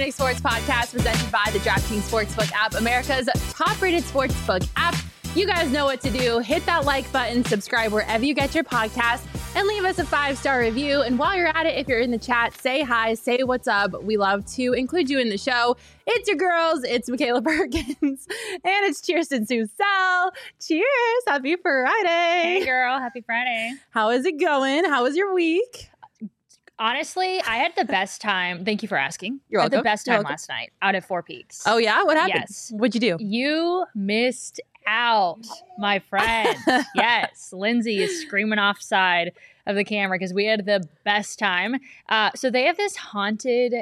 Nick Sports Podcast presented by the DraftKings Sportsbook app, America's top-rated sportsbook app. You guys know what to do. Hit that like button, subscribe wherever you get your podcast, and leave us a 5-star review. And while you're at it, if you're in the chat, say hi, say what's up. We love to include you in the show. It's your girls. It's Michaela Perkins. And it's Kirsten Susel. Cheers. Happy Friday. Hey, girl. Happy Friday. How is it going? How was your week? Honestly, I had the best time. Thank you for asking. You're welcome. I had the best time last night out at Four Peaks. Oh, yeah? What happened? Yes. What'd you do? You missed out, my friend. Yes. Lindsay is screaming offside of the camera because we had the best time. So they have this haunted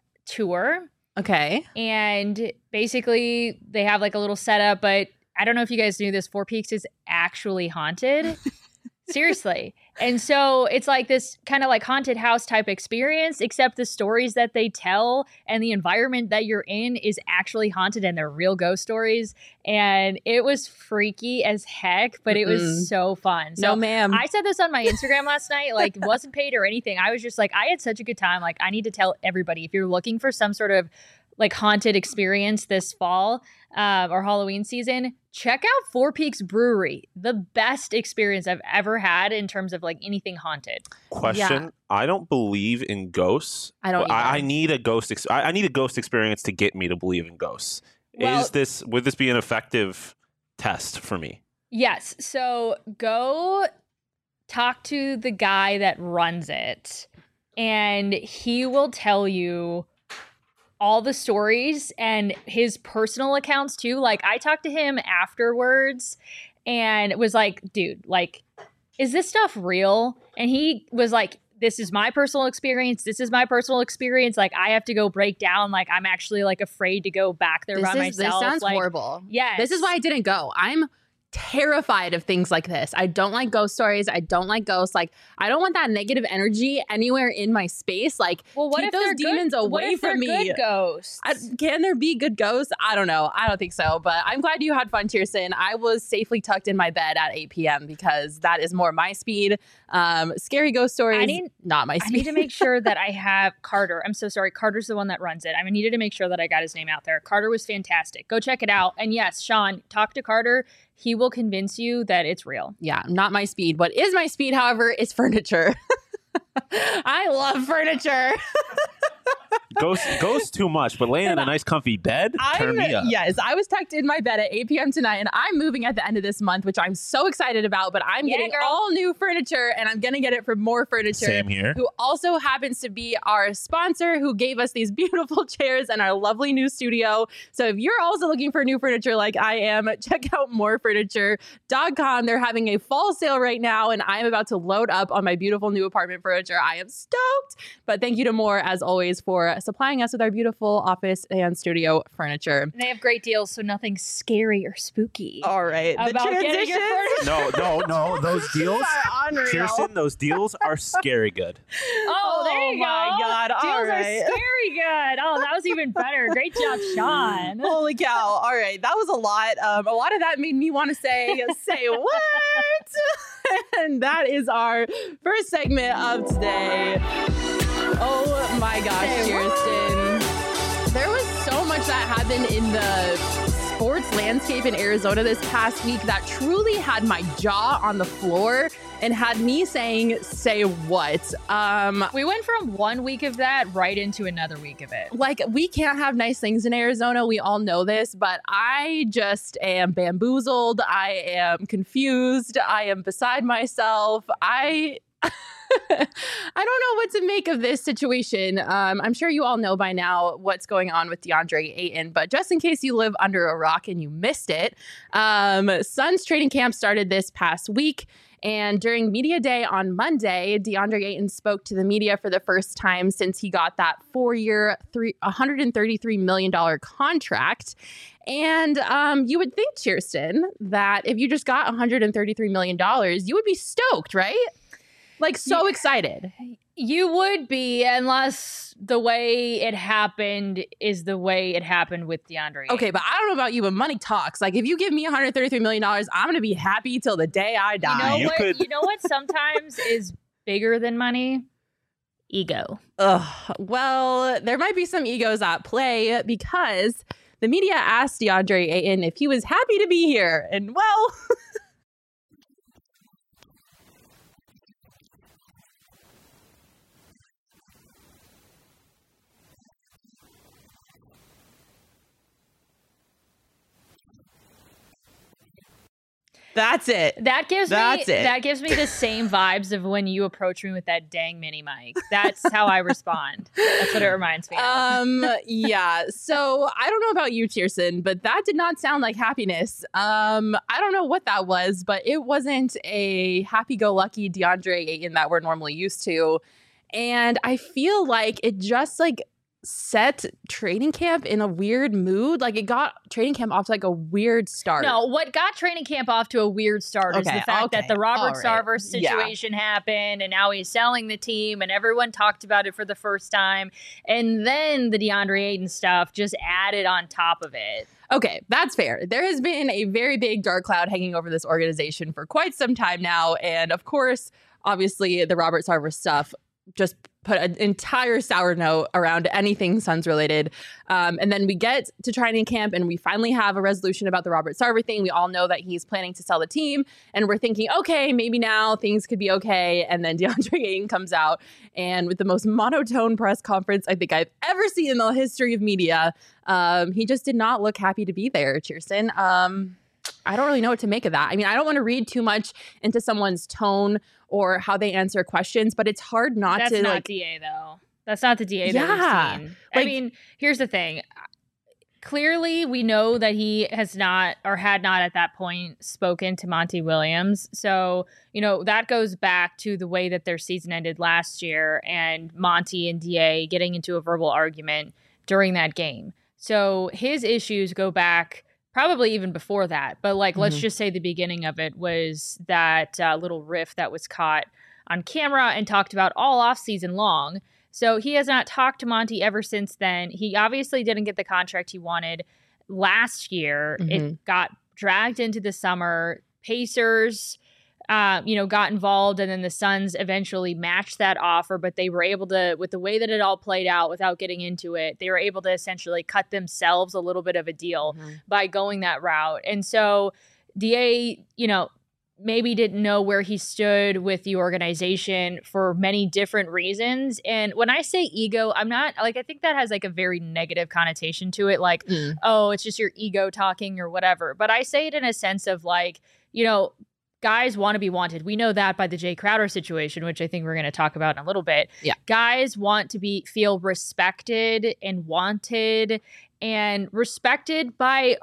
tour. Okay. And basically they have like a little setup, but I don't know if you guys knew this. Four Peaks is actually haunted. Seriously. And so it's like this kind of like haunted house type experience, except the stories that they tell and the environment that you're in is actually haunted and they're real ghost stories. And it was freaky as heck, but it was so fun. So no, ma'am. I said this on my Instagram last night, like wasn't paid or anything. I was just like, I had such a good time. Like I need to tell everybody, if you're looking for some sort of like haunted experience this fall or Halloween season, check out Four Peaks Brewery. The best experience I've ever had in terms of like anything haunted. Question: Yeah. I don't believe in ghosts. I don't I need a ghost. I need a ghost experience to get me to believe in ghosts. Well, Would this be an effective test for me? Yes. So go talk to the guy that runs it, and he will tell you all the stories and his personal accounts too. Like I talked to him afterwards and was like, dude, like, is this stuff real? And he was like, this is my personal experience. This is my personal experience. Like I have to go break down. Like I'm actually like afraid to go back there by myself. This sounds like, horrible. Yes. This is why I didn't go. I'm terrified of things like this. I don't like ghost stories. I don't like ghosts. Like I don't want that negative energy anywhere in my space. Like well, what keep if those they're demons good, away what if from they're me. Good ghosts. Can there be good ghosts? I don't know. I don't think so. But I'm glad you had fun, Kirsten. I was safely tucked in my bed at 8 p.m. because that is more my speed. Scary ghost stories, not my speed. I need to make sure that I have Carter. I'm so sorry. Carter's the one that runs it. I needed to make sure that I got his name out there. Carter was fantastic. Go check it out. And yes, Sean, talk to Carter. He will convince you that it's real. Yeah, not my speed. What is my speed, however, is furniture. I love furniture. Ghosts too much, but laying in a nice comfy bed, turn me up. Yes, I was tucked in my bed at 8 p.m. tonight, and I'm moving at the end of this month, which I'm so excited about, but I'm getting all new furniture, and I'm going to get it from More Furniture. Same here. Who also happens to be our sponsor, who gave us these beautiful chairs and our lovely new studio. So if you're also looking for new furniture like I am, check out morefurniture.com. They're having a fall sale right now, and I'm about to load up on my beautiful new apartment furniture. I am stoked. But thank you to More, as always, for supplying us with our beautiful office and studio furniture. And they have great deals, so nothing scary or spooky. All right. About getting your furniture. No. Those deals, unreal. Kirsten, those deals are scary good. Oh, there you go. my God. All Deals right. are scary good. Oh, that was even better. Great job, Sean. Holy cow. All right. That was a lot. A lot of that made me want to say what? And that is our first segment of today. Oh my gosh, Kirsten. There was so much that happened in the sports landscape in Arizona this past week that truly had my jaw on the floor and had me saying, say what? We went from 1 week of that right into another week of it. Like, we can't have nice things in Arizona. We all know this, but I just am bamboozled. I am confused. I am beside myself. I don't know what to make of this situation. I'm sure you all know by now what's going on with DeAndre Ayton, but just in case you live under a rock and you missed it, Suns training camp started this past week. And during media day on Monday, DeAndre Ayton spoke to the media for the first time since he got that 4-year, $133 million contract. And you would think, Kirsten, that if you just got $133 million, you would be stoked, right? Like, so excited. You would be, unless the way it happened is the way it happened with DeAndre. Okay, but I don't know about you, but money talks. Like, if you give me $133 million, I'm going to be happy till the day I die. You know what sometimes is bigger than money? Ego. Well, there might be some egos at play because the media asked DeAndre Ayton if he was happy to be here. And well, that's it. That gives me the same vibes of when you approach me with that dang mini mic. That's how I respond. That's what it reminds me of. Yeah. So I don't know about you, Tiersten, but that did not sound like happiness. I don't know what that was, but it wasn't a happy-go-lucky DeAndre Ayton that we're normally used to. And I feel like it just set training camp in a weird mood. Like it got training camp off to a weird start. No, what got training camp off to a weird start is the fact that the Robert Sarver situation happened, and now he's selling the team, and everyone talked about it for the first time. And then the DeAndre Ayton stuff just added on top of it. Okay, that's fair. There has been a very big dark cloud hanging over this organization for quite some time now. And of course, obviously, the Robert Sarver stuff just put an entire sour note around anything Suns related. And then we get to training camp and we finally have a resolution about the Robert Sarver thing. We all know that he's planning to sell the team. And we're thinking, okay, maybe now things could be okay. And then DeAndre Ayton comes out and with the most monotone press conference I think I've ever seen in the history of media, he just did not look happy to be there, Tiersten. I don't really know what to make of that. I mean, I don't want to read too much into someone's tone or how they answer questions, but it's hard not to. That's not DA though. That's not the DA that we've seen. I mean, here's the thing. Clearly, we know that he has not or had not at that point spoken to Monty Williams. So, that goes back to the way that their season ended last year and Monty and DA getting into a verbal argument during that game. So his issues go back probably even before that. But let's just say the beginning of it was that little riff that was caught on camera and talked about all off season long. So he has not talked to Monty ever since then. He obviously didn't get the contract he wanted last year. It got dragged into the summer. Pacers, got involved, and then the Suns eventually matched that offer, but they were able to, with the way that it all played out without getting into it, they were able to essentially cut themselves a little bit of a deal by going that route. And so DA, maybe didn't know where he stood with the organization for many different reasons. And when I say ego, I'm not I think that has a very negative connotation to it. Oh, it's just your ego talking or whatever. But I say it in a sense of guys want to be wanted. We know that by the Jay Crowder situation, which I think we're going to talk about in a little bit. Yeah. Guys want to feel respected and wanted and respected by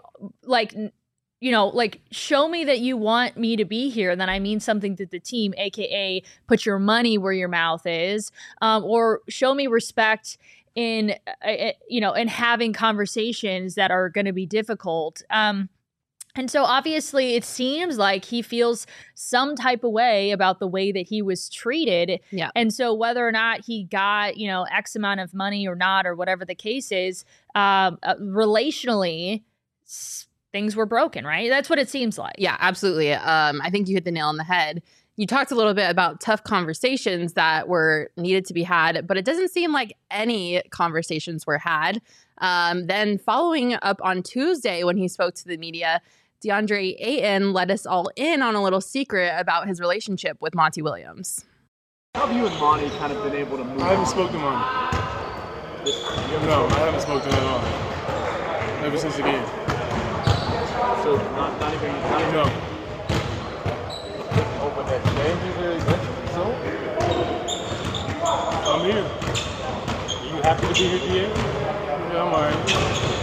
show me that you want me to be here. Then I mean something to the team, AKA put your money where your mouth is, or show me respect in having conversations that are going to be difficult. And so obviously it seems like he feels some type of way about the way that he was treated. Yeah. And so whether or not he got, X amount of money or not, or whatever the case is, relationally, things were broken, right? That's what it seems like. Yeah, absolutely. I think you hit the nail on the head. You talked a little bit about tough conversations that were needed to be had, but it doesn't seem like any conversations were had. Then following up on Tuesday when he spoke to the media, DeAndre Ayton let us all in on a little secret about his relationship with Monty Williams. How have you and Monty kind of been able to move I haven't spoken to Monty. No, I haven't spoken to him at all. Ever since the game. So not even No. open that I'm here. Are you happy to be here, DA? Yeah, I'm alright.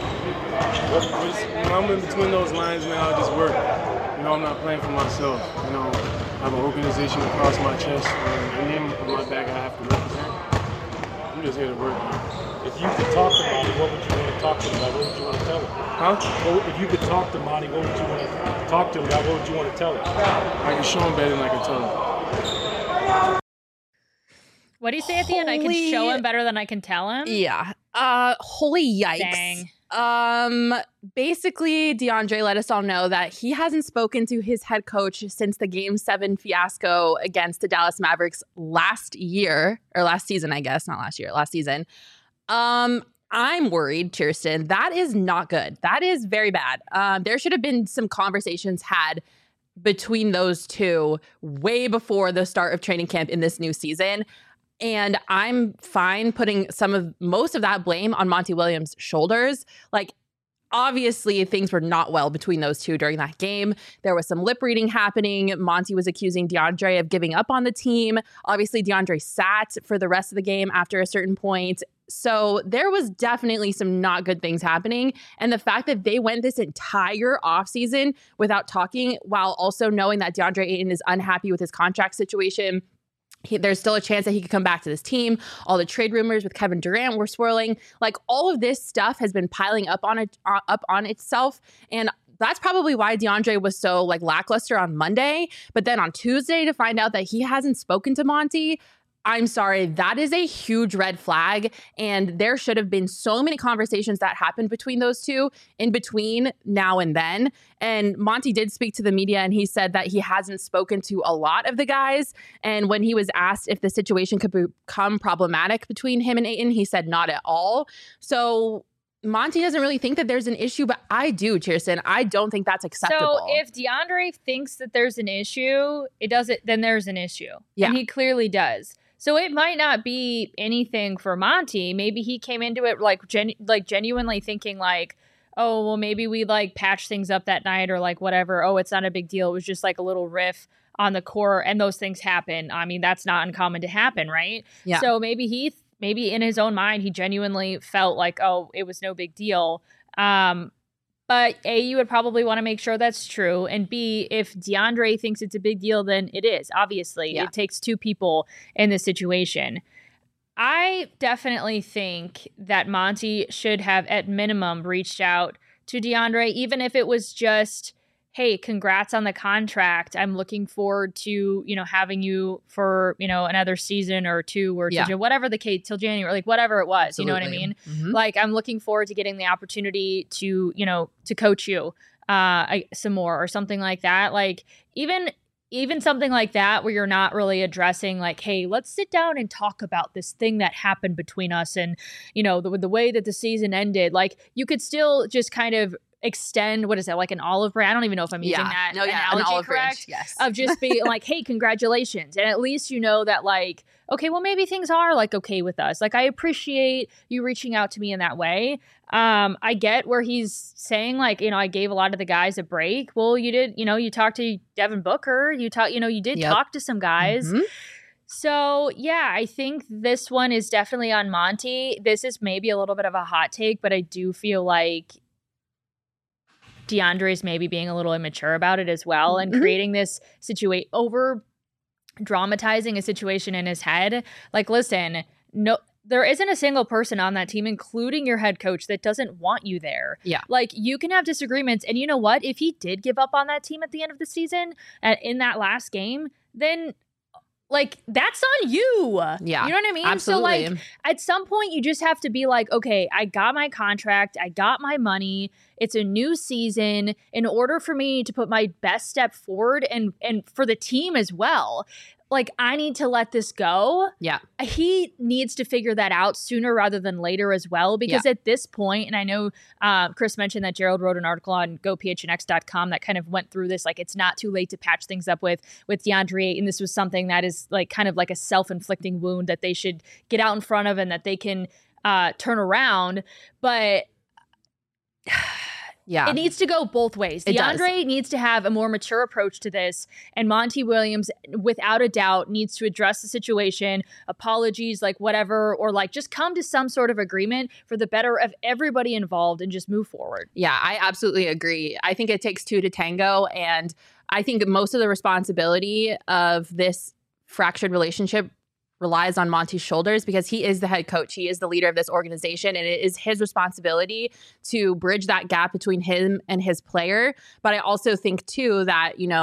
When I'm in between those lines now, I just work. I'm not playing for myself. I have an organization across my chest and a name on my back I have to represent. I'm just here to work. If you could talk to Monty, what would you want to talk to him about? What would you want to tell him? Huh? Well, if you could talk to Monty, what would you want to talk to him about? What would you want to tell him? I can show him better than I can tell him. What do you say at the end? I can show him better than I can tell him? Yeah. Holy yikes. Dang. Basically, DeAndre let us all know that he hasn't spoken to his head coach since the Game 7 fiasco against the Dallas Mavericks last season, I guess, not last year, last season. I'm worried, Kirsten. That is not good. That is very bad. There should have been some conversations had between those two way before the start of training camp in this new season. And I'm fine putting most of that blame on Monty Williams' shoulders. Like, obviously, things were not well between those two during that game. There was some lip reading happening. Monty was accusing DeAndre of giving up on the team. Obviously, DeAndre sat for the rest of the game after a certain point. So there was definitely some not good things happening. And the fact that they went this entire offseason without talking, while also knowing that DeAndre Ayton is unhappy with his contract situation, there's still a chance that he could come back to this team. All the trade rumors with Kevin Durant were swirling. Like, all of this stuff has been piling up on itself. And that's probably why DeAndre was so lackluster on Monday. But then on Tuesday, to find out that he hasn't spoken to Monty, I'm sorry, that is a huge red flag. And there should have been so many conversations that happened between those two in between now and then. And Monty did speak to the media, and he said that he hasn't spoken to a lot of the guys. And when he was asked if the situation could become problematic between him and Ayton, he said not at all. So Monty doesn't really think that there's an issue, but I do, Kirsten. I don't think that's acceptable. So if DeAndre thinks that there's an issue, then there's an issue. Yeah. And he clearly does. So it might not be anything for Monty. Maybe he came into it genuinely thinking oh, well, maybe we patch things up that night or whatever. Oh, it's not a big deal. It was just a little riff on the court, and those things happen. I mean, that's not uncommon to happen, right? Yeah. So maybe in his own mind, he genuinely felt oh, it was no big deal. But A, you would probably want to make sure that's true. And B, if DeAndre thinks it's a big deal, then it is. Obviously, It takes two people in this situation. I definitely think that Monty should have, at minimum, reached out to DeAndre, even if it was just, hey, congrats on the contract. I'm looking forward to, having you for, another season or two or whatever the case, till January, whatever it was, Absolutely. You know what I mean? Mm-hmm. I'm looking forward to getting the opportunity to, to coach you some more or something like that. Even something like that where you're not really addressing hey, let's sit down and talk about this thing that happened between us and, the way that the season ended. You could still just kind of extend, what is that, an olive branch? I don't even know if I'm using that analogy an olive correct. Branch, yes. Of just being hey, congratulations. And at least that okay, well, maybe things are okay with us. I appreciate you reaching out to me in that way. I get where he's saying I gave a lot of the guys a break. Well, you did, you talked to Devin Booker, you did talk to some guys. Mm-hmm. So, yeah, I think this one is definitely on Monty. This is maybe a little bit of a hot take, but I do feel DeAndre is maybe being a little immature about it as well and creating this situation, over dramatizing a situation in his head. Listen, no, there isn't a single person on that team, including your head coach, that doesn't want you there. Yeah. You can have disagreements. And you know what? If he did give up on that team at the end of the season, in that last game, then that's on you. Yeah. You know what I mean? Absolutely. So at some point you just have to be okay, I got my contract. I got my money. It's a new season. In order for me to put my best step forward and for the team as well, I need to let this go. Yeah. He needs to figure that out sooner rather than later as well, because at this point, and I know Chris mentioned that Gerald wrote an article on gophnx.com that kind of went through this, it's not too late to patch things up with DeAndre, and this was something that is kind of a self-inflicting wound that they should get out in front of and that they can turn around. But yeah, it needs to go both ways. DeAndre needs to have a more mature approach to this, and Monty Williams, without a doubt, needs to address the situation, apologies, whatever, or just come to some sort of agreement for the better of everybody involved and just move forward. Yeah, I absolutely agree. I think it takes two to tango, and I think most of the responsibility of this fractured relationship relies on Monty's shoulders, because he is the head coach. He is the leader of this organization, and it is his responsibility to bridge that gap between him and his player. But I also think, too, that,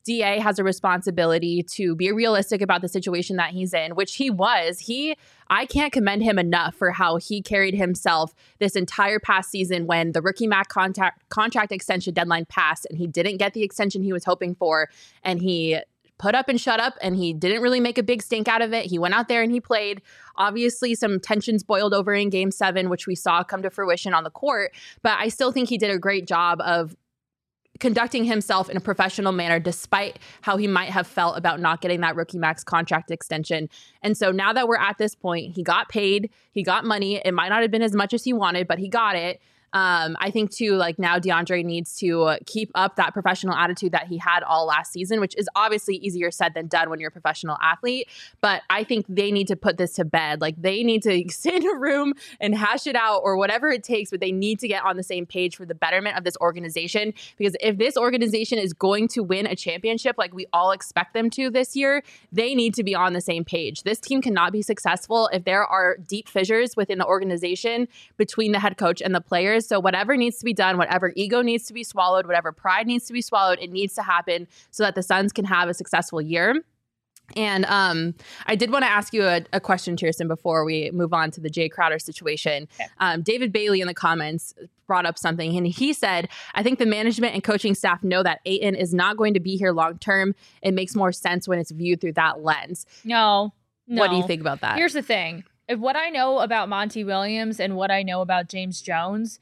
DA has a responsibility to be realistic about the situation that he's in, which he was. I can't commend him enough for how he carried himself this entire past season when the rookie max contract extension deadline passed and he didn't get the extension he was hoping for. And he put up and shut up, and he didn't really make a big stink out of it. He went out there and he played. Obviously, some tensions boiled over in Game 7, which we saw come to fruition on the court. But I still think he did a great job of conducting himself in a professional manner, despite how he might have felt about not getting that rookie max contract extension. And so now that we're at this point, he got paid, he got money. It might not have been as much as he wanted, but he got it. I think too, like now DeAndre needs to keep up that professional attitude that he had all last season, which is obviously easier said than done when you're a professional athlete. But I think they need to put this to bed. Like they need to sit in a room and hash it out or whatever it takes, but they need to get on the same page for the betterment of this organization. Because if this organization is going to win a championship like we all expect them to this year, they need to be on the same page. This team cannot be successful if there are deep fissures within the organization between the head coach and the players. So whatever needs to be done, whatever ego needs to be swallowed, whatever pride needs to be swallowed, it needs to happen so that the Suns can have a successful year. And I did want to ask you a question, Kirsten, before we move on to the Jay Crowder situation. Okay. David Bailey in the comments brought up something, and he said, I think the management and coaching staff know that Ayton is not going to be here long term. It makes more sense when it's viewed through that lens. No. What do you think about that? Here's the thing. If what I know about Monty Williams and what I know about James Jones,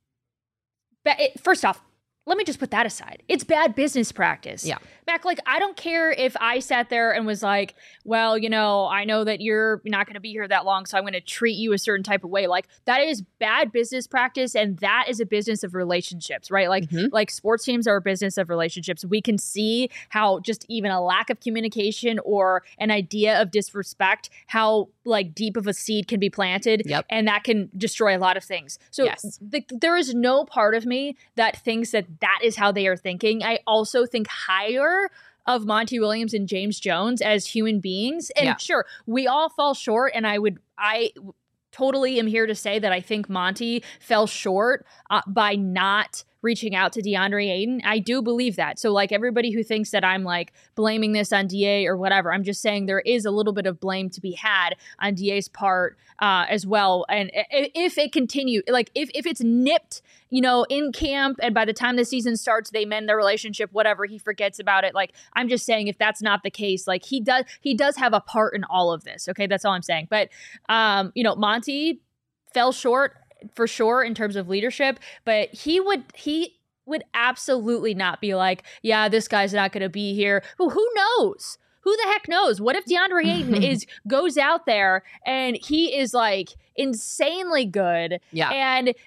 first off, let me just put that aside. It's bad business practice. Yeah. Mac, like, I don't care if I sat there and was like, well, you know, I know that you're not going to be here that long, so I'm going to treat you a certain type of way. Like, that is bad business practice, and that is a business of relationships, right? Like, like sports teams are a business of relationships. We can see how just even a lack of communication or an idea of disrespect, how, like, deep of a seed can be planted, and that can destroy a lot of things. So there is no part of me that thinks that is how they are thinking. I also think higher of Monty Williams and James Jones as human beings. And sure, we all fall short. And I totally am here to say that I think Monty fell short by not reaching out to DeAndre Ayton. I do believe that. So like everybody who thinks that I'm like blaming this on DA or whatever, I'm just saying there is a little bit of blame to be had on DA's part as well. And if it continues, like if it's nipped, you know, in camp and by the time the season starts, they mend their relationship, whatever, he forgets about it. Like, I'm just saying if that's not the case, like he does have a part in all of this. Okay. That's all I'm saying. But, you know, Monty fell short for sure in terms of leadership, but he would absolutely not be like, yeah, this guy's not going to be here. Who knows? Who the heck knows? What if DeAndre Ayton goes out there and he is like insanely good? Yeah. And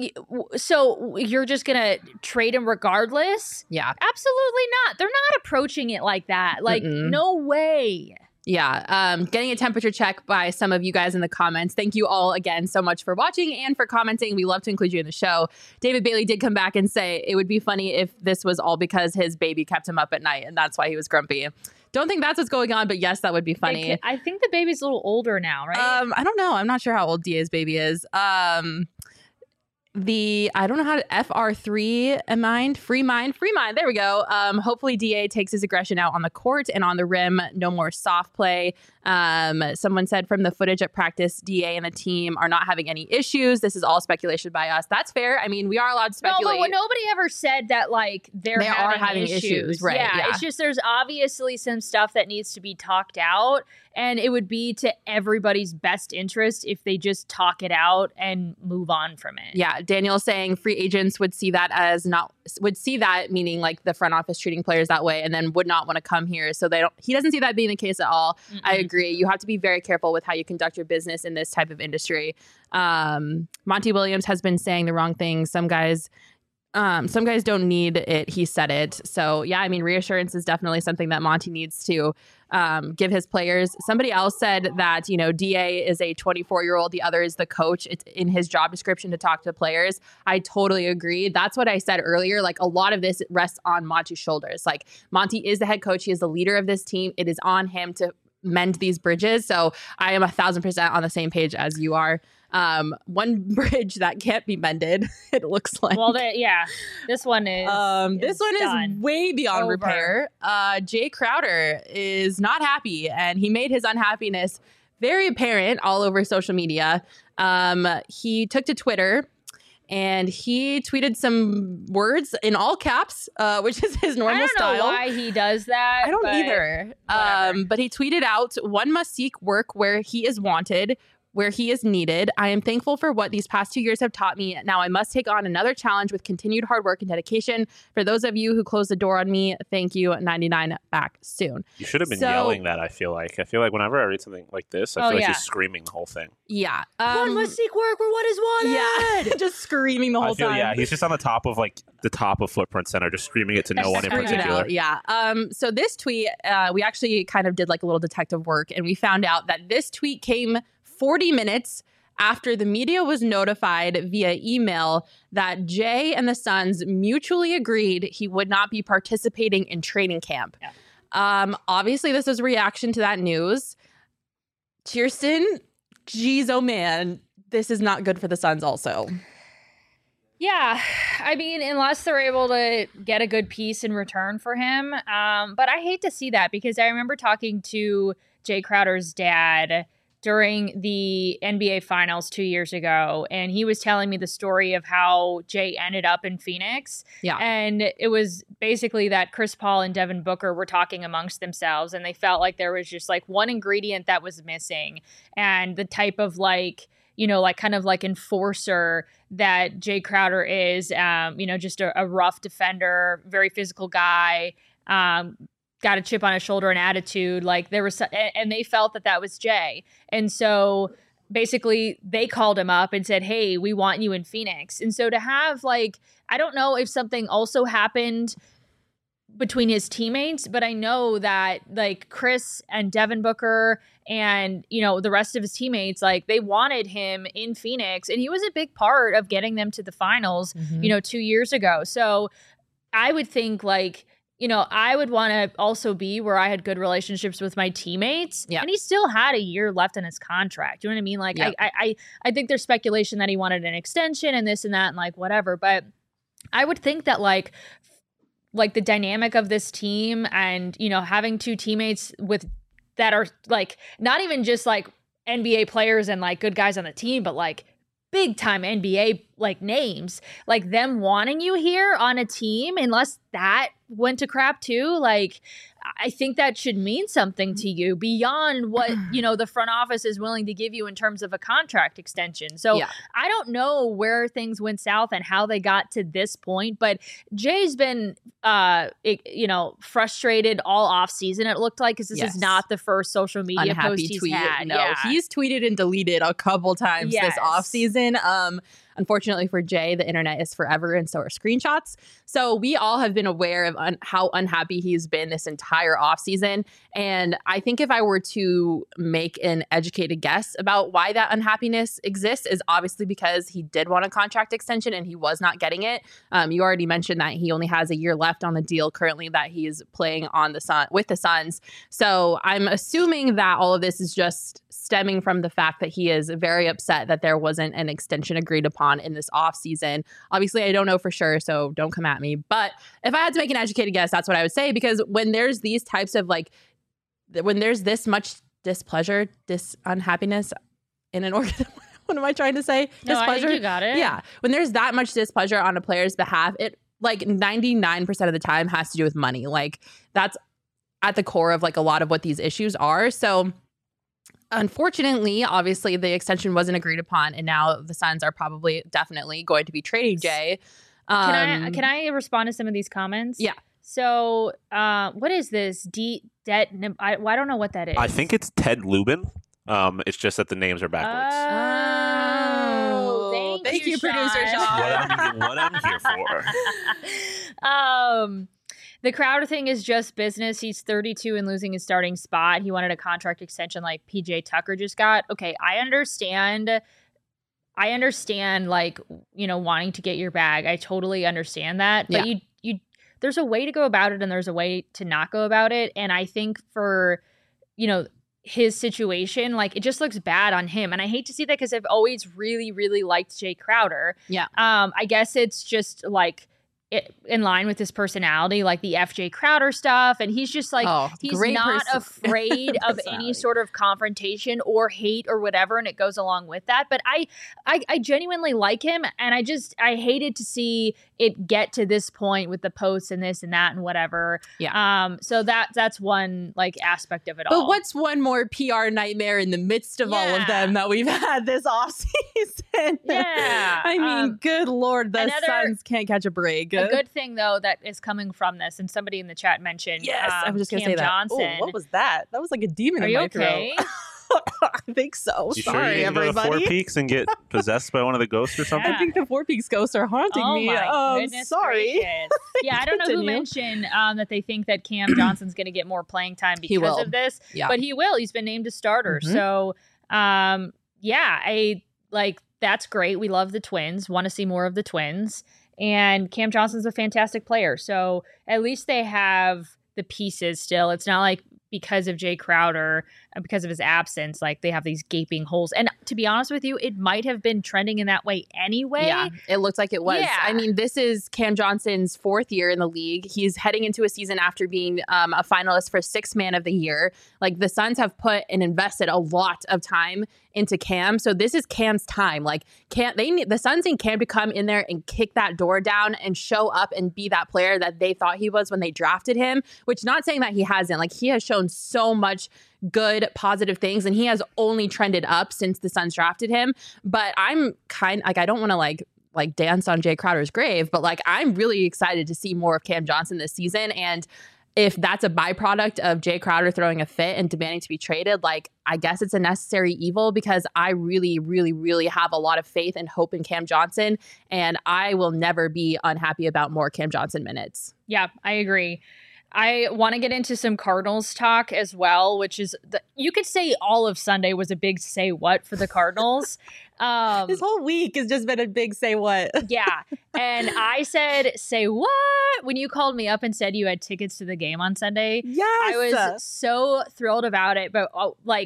so you're just going to trade him regardless? Yeah. Absolutely not. They're not approaching it like that. Like, no way. Yeah, getting a temperature check by some of you guys in the comments. Thank you all again so much for watching and for commenting. We love to include you in the show. David Bailey did come back and say it would be funny if this was all because his baby kept him up at night and that's why he was grumpy. Don't think that's what's going on, but yes, that would be funny. I think the baby's a little older now, right? I don't know. I'm not sure how old DA's baby is. I don't know how to FR3 free mind. There we go. Hopefully DA takes his aggression out on the court and on the rim. No more soft play. Someone said from the footage at practice, DA and the team are not having any issues. This is all speculation by us. That's fair. I mean, we are allowed to speculate. No, but nobody ever said that like they are having issues. Right. Yeah, it's just there's obviously some stuff that needs to be talked out, and it would be to everybody's best interest if they just talk it out and move on from it. Yeah, Daniel saying free agents would see that meaning like the front office treating players that way, and then would not want to come here. So he doesn't see that being the case at all. I agree. You have to be very careful with how you conduct your business in this type of industry. Monty Williams has been saying the wrong things. Some guys don't need it. He said it. So yeah, I mean, reassurance is definitely something that Monty needs to give his players. Somebody else said that, you know, DA is a 24-year-old. The other is the coach. It's in his job description to talk to players. I totally agree. That's what I said earlier. Like a lot of this rests on Monty's shoulders. Like Monty is the head coach. He is the leader of this team. It is on him to mend these bridges. So I am 1,000% on the same page as you are. One bridge that can't be mended, it looks like. Well, this one is. This one done. is way beyond Over. repair. Jay Crowder is not happy, and he made his unhappiness very apparent all over social media. He took to Twitter and he tweeted some words in all caps, which is his normal style. I don't know why he does that. I don't either. But he tweeted out, "One must seek work where he is wanted, where he is needed. I am thankful for what these past 2 years have taught me. Now I must take on another challenge with continued hard work and dedication. For those of you who closed the door on me, thank you. 99 back soon." You should have been yelling that, I feel like. I feel like whenever I read something like this, I feel like he's screaming the whole thing. Yeah. One must seek work where what is wanted. Yeah. Just screaming the whole time. Yeah, he's just on the top of Footprint Center, just screaming it to no one in particular. Yeah. So this tweet, we actually kind of did like a little detective work, and we found out that this tweet came 40 minutes after the media was notified via email that Jay and the Suns mutually agreed he would not be participating in training camp. Yeah. Obviously, this is a reaction to that news. Kirsten, geez, oh man, this is not good for the Suns also. Yeah, I mean, unless they're able to get a good piece in return for him. But I hate to see that because I remember talking to Jay Crowder's dad during the NBA Finals 2 years ago, and he was telling me the story of how Jay ended up in Phoenix. Yeah. And it was basically that Chris Paul and Devin Booker were talking amongst themselves, and they felt like there was just like one ingredient that was missing, and the type of kind of like enforcer that Jay Crowder is, just a rough defender, very physical guy, got a chip on his shoulder and attitude. Like there was, and they felt that was Jay. And so basically they called him up and said, "Hey, we want you in Phoenix." And so to have I don't know if something also happened between his teammates, but I know that Chris and Devin Booker and, the rest of his teammates, they wanted him in Phoenix, and he was a big part of getting them to the finals, 2 years ago. So I would think I would want to also be where I had good relationships with my teammates. Yeah. And he still had a year left in his contract. You know what I mean? I think there's speculation that he wanted an extension and this and that and whatever. But I would think that the dynamic of this team and, having two teammates that are not even just NBA players and good guys on the team, but big time NBA names, them wanting you here on a team, unless that went to crap too, I think that should mean something to you beyond what the front office is willing to give you in terms of a contract extension. So yeah. I don't know where things went south and how they got to this point, but Jay's been frustrated all off season, it looked like, because this is not the first social media unhappy post he's tweet. had. No, he's tweeted and deleted a couple times this off season. Unfortunately for Jay, the internet is forever, and so are screenshots. So we all have been aware of how unhappy he's been this entire offseason. And I think if I were to make an educated guess about why that unhappiness exists, is obviously because he did want a contract extension and he was not getting it. You already mentioned that he only has a year left on the deal currently that he's playing on with the Suns. So I'm assuming that all of this is just stemming from the fact that he is very upset that there wasn't an extension agreed upon in this offseason. Obviously, I don't know for sure, so don't come at me. But if I had to make an educated guess, that's what I would say, because when there's these types of when there's this much displeasure, unhappiness in an organ, what am I trying to say? No, displeasure. I think you got it. Yeah. When there's that much displeasure on a player's behalf, it 99% of the time has to do with money. That's at the core of a lot of what these issues are. So unfortunately, obviously, the extension wasn't agreed upon, and now the Suns are definitely going to be trading Jay. Can I respond to some of these comments? Yeah. So, what is this? I don't know what that is. I think it's Ted Lubin. It's just that the names are backwards. Oh, thank you, producer Sean. What I'm here for. The Crowder thing is just business. He's 32 and losing his starting spot. He wanted a contract extension like PJ Tucker just got. Okay, I understand wanting to get your bag. I totally understand that. But you there's a way to go about it and there's a way to not go about it. And I think for, his situation, like it just looks bad on him. And I hate to see that because I've always really, really liked Jay Crowder. Yeah. I guess it's just like in line with his personality, like the FJ Crowder stuff. And he's just like, he's not afraid of any sort of confrontation or hate or whatever. And it goes along with that. But I genuinely like him. And I hated to see it get to this point with the posts and this and that and whatever. Yeah. So that's one like aspect of it all. But what's one more PR nightmare in the midst of all of them that we've had this offseason? Yeah. I mean, good Lord, the Suns can't catch a break. A good thing, though, that is coming from this, and somebody in the chat mentioned I was just going to say that. Johnson. Ooh, what was that? That was like a demon in my throat. I think so. You Sorry, sure you everybody. Go to Four Peaks and get possessed by one of the ghosts or something? I think the Four Peaks ghosts are haunting me. My goodness sorry. Yeah, I don't know who mentioned that they think that Cam Johnson's going to get more playing time because of this. Yeah. But he will. He's been named a starter. Mm-hmm. So, that's great. We love the Twins. Want to see more of the Twins. And Cam Johnson's a fantastic player. So at least they have the pieces still. It's not like because of Jay Crowder and because of his absence, like they have these gaping holes. And to be honest with you, it might have been trending in that way anyway. Yeah, it looks like it was. Yeah. I mean, this is Cam Johnson's 4th year in the league. He's heading into a season after being a finalist for 6th Man of the Year. Like the Suns have put and invested a lot of time into Cam. So this is Cam's time. Like the Suns need Cam to come in there and kick that door down and show up and be that player that they thought he was when they drafted him, which not saying that he hasn't. Like he has shown so much good positive things and he has only trended up since the Suns drafted him. But I'm I don't want to like dance on Jay Crowder's grave, but like I'm really excited to see more of Cam Johnson this season. And if that's a byproduct of Jay Crowder throwing a fit and demanding to be traded, like I guess it's a necessary evil because I really, really, really have a lot of faith and hope in Cam Johnson, and I will never be unhappy about more Cam Johnson minutes. Yeah, I agree. I want to get into some Cardinals talk as well, which is you could say all of Sunday was a big say what for the Cardinals. This whole week has just been a big say what. Yeah. And I said, say what? When you called me up and said you had tickets to the game on Sunday. Yes. I was so thrilled about it. But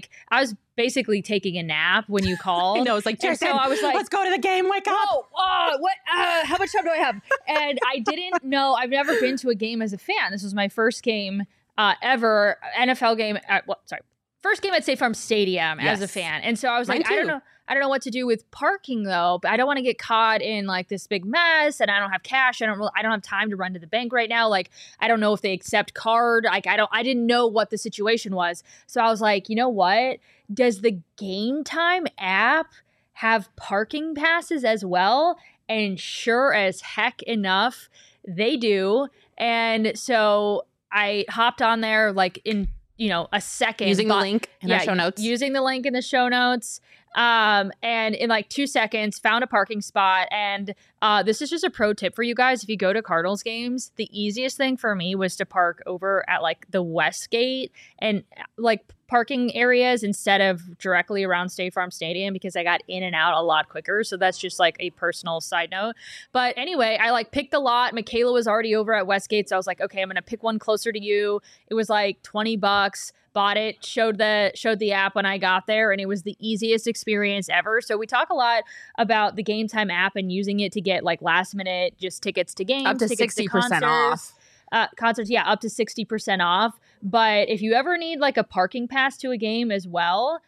I was basically taking a nap when you called. I know. It's like, Jason, so I was like, let's go to the game. Wake up. What? How much time do I have? And I didn't know. I've never been to a game as a fan. This was my first game ever, NFL game. First game at State Farm Stadium as a fan. And so I was like, I don't know what to do with parking though, but I don't want to get caught in like this big mess and I don't have cash. I don't have time to run to the bank right now. Like, I don't know if they accept card. Like, I didn't know what the situation was. So I was like, you know what? Does the Game Time app have parking passes as well? And sure as heck enough, they do. And so I hopped on there like in, a second. Using the link in the show notes. Using the link in the show notes. And in like 2 seconds, found a parking spot. And this is just a pro tip for you guys. If you go to Cardinals games, the easiest thing for me was to park over at like the West Gate and like parking areas instead of directly around State Farm Stadium because I got in and out a lot quicker. So that's just like a personal side note. But anyway, I like picked a lot. Michaela was already over at Westgate. So I was like, okay, I'm going to pick one closer to you. It was like $20. Bought it, showed the app when I got there, and it was the easiest experience ever. So we talk a lot about the Game Time app and using it to get like last minute just tickets to games, up to 60% off. Concerts, yeah, up to 60% off. But if you ever need like a parking pass to a game as well,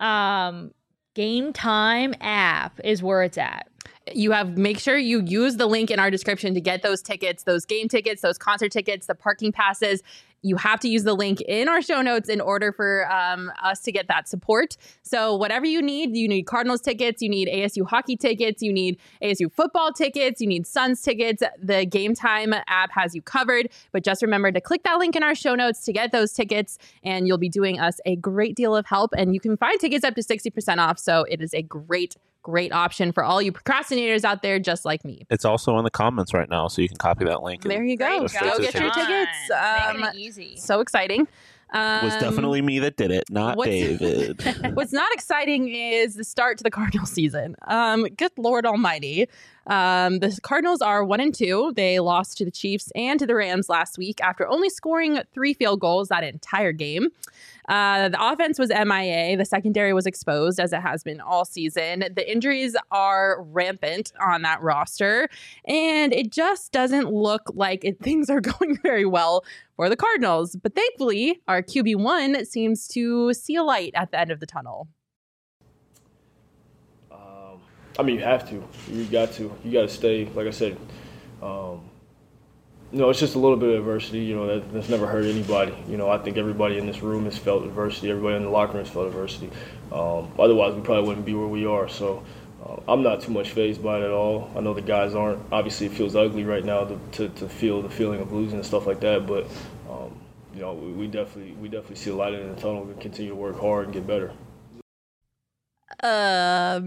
Game Time app is where it's at. Make sure you use the link in our description to get those tickets, those game tickets, those concert tickets, the parking passes. You have to use the link in our show notes in order for us to get that support. So whatever you need Cardinals tickets, you need ASU hockey tickets, you need ASU football tickets, you need Suns tickets. The Game Time app has you covered. But just remember to click that link in our show notes to get those tickets, and you'll be doing us a great deal of help. And you can find tickets up to 60% off. So it is a great option for all you procrastinators out there just like me. It's also in the comments right now, so you can copy that link. There you go. Go get your tickets. Making it easy. So exciting. It was definitely me that did it, not David. What's not exciting is the start to the Cardinal season. Good Lord Almighty. The Cardinals are 1-2. They lost to the Chiefs and to the Rams last week after only scoring 3 field goals that entire game. The offense was MIA. The secondary was exposed, as it has been all season. The injuries are rampant on that roster, and it just doesn't look like things are going very well for the Cardinals. But thankfully, our QB1 seems to see a light at the end of the tunnel. I mean, you have to. You got to stay. Like I said, it's just a little bit of adversity. That's never hurt anybody. I think everybody in this room has felt adversity. Everybody in the locker room has felt adversity. Otherwise, we probably wouldn't be where we are. So I'm not too much fazed by it at all. I know the guys aren't. Obviously, it feels ugly right now to feel the feeling of losing and stuff like that. But we definitely see a light in the tunnel and continue to work hard and get better. I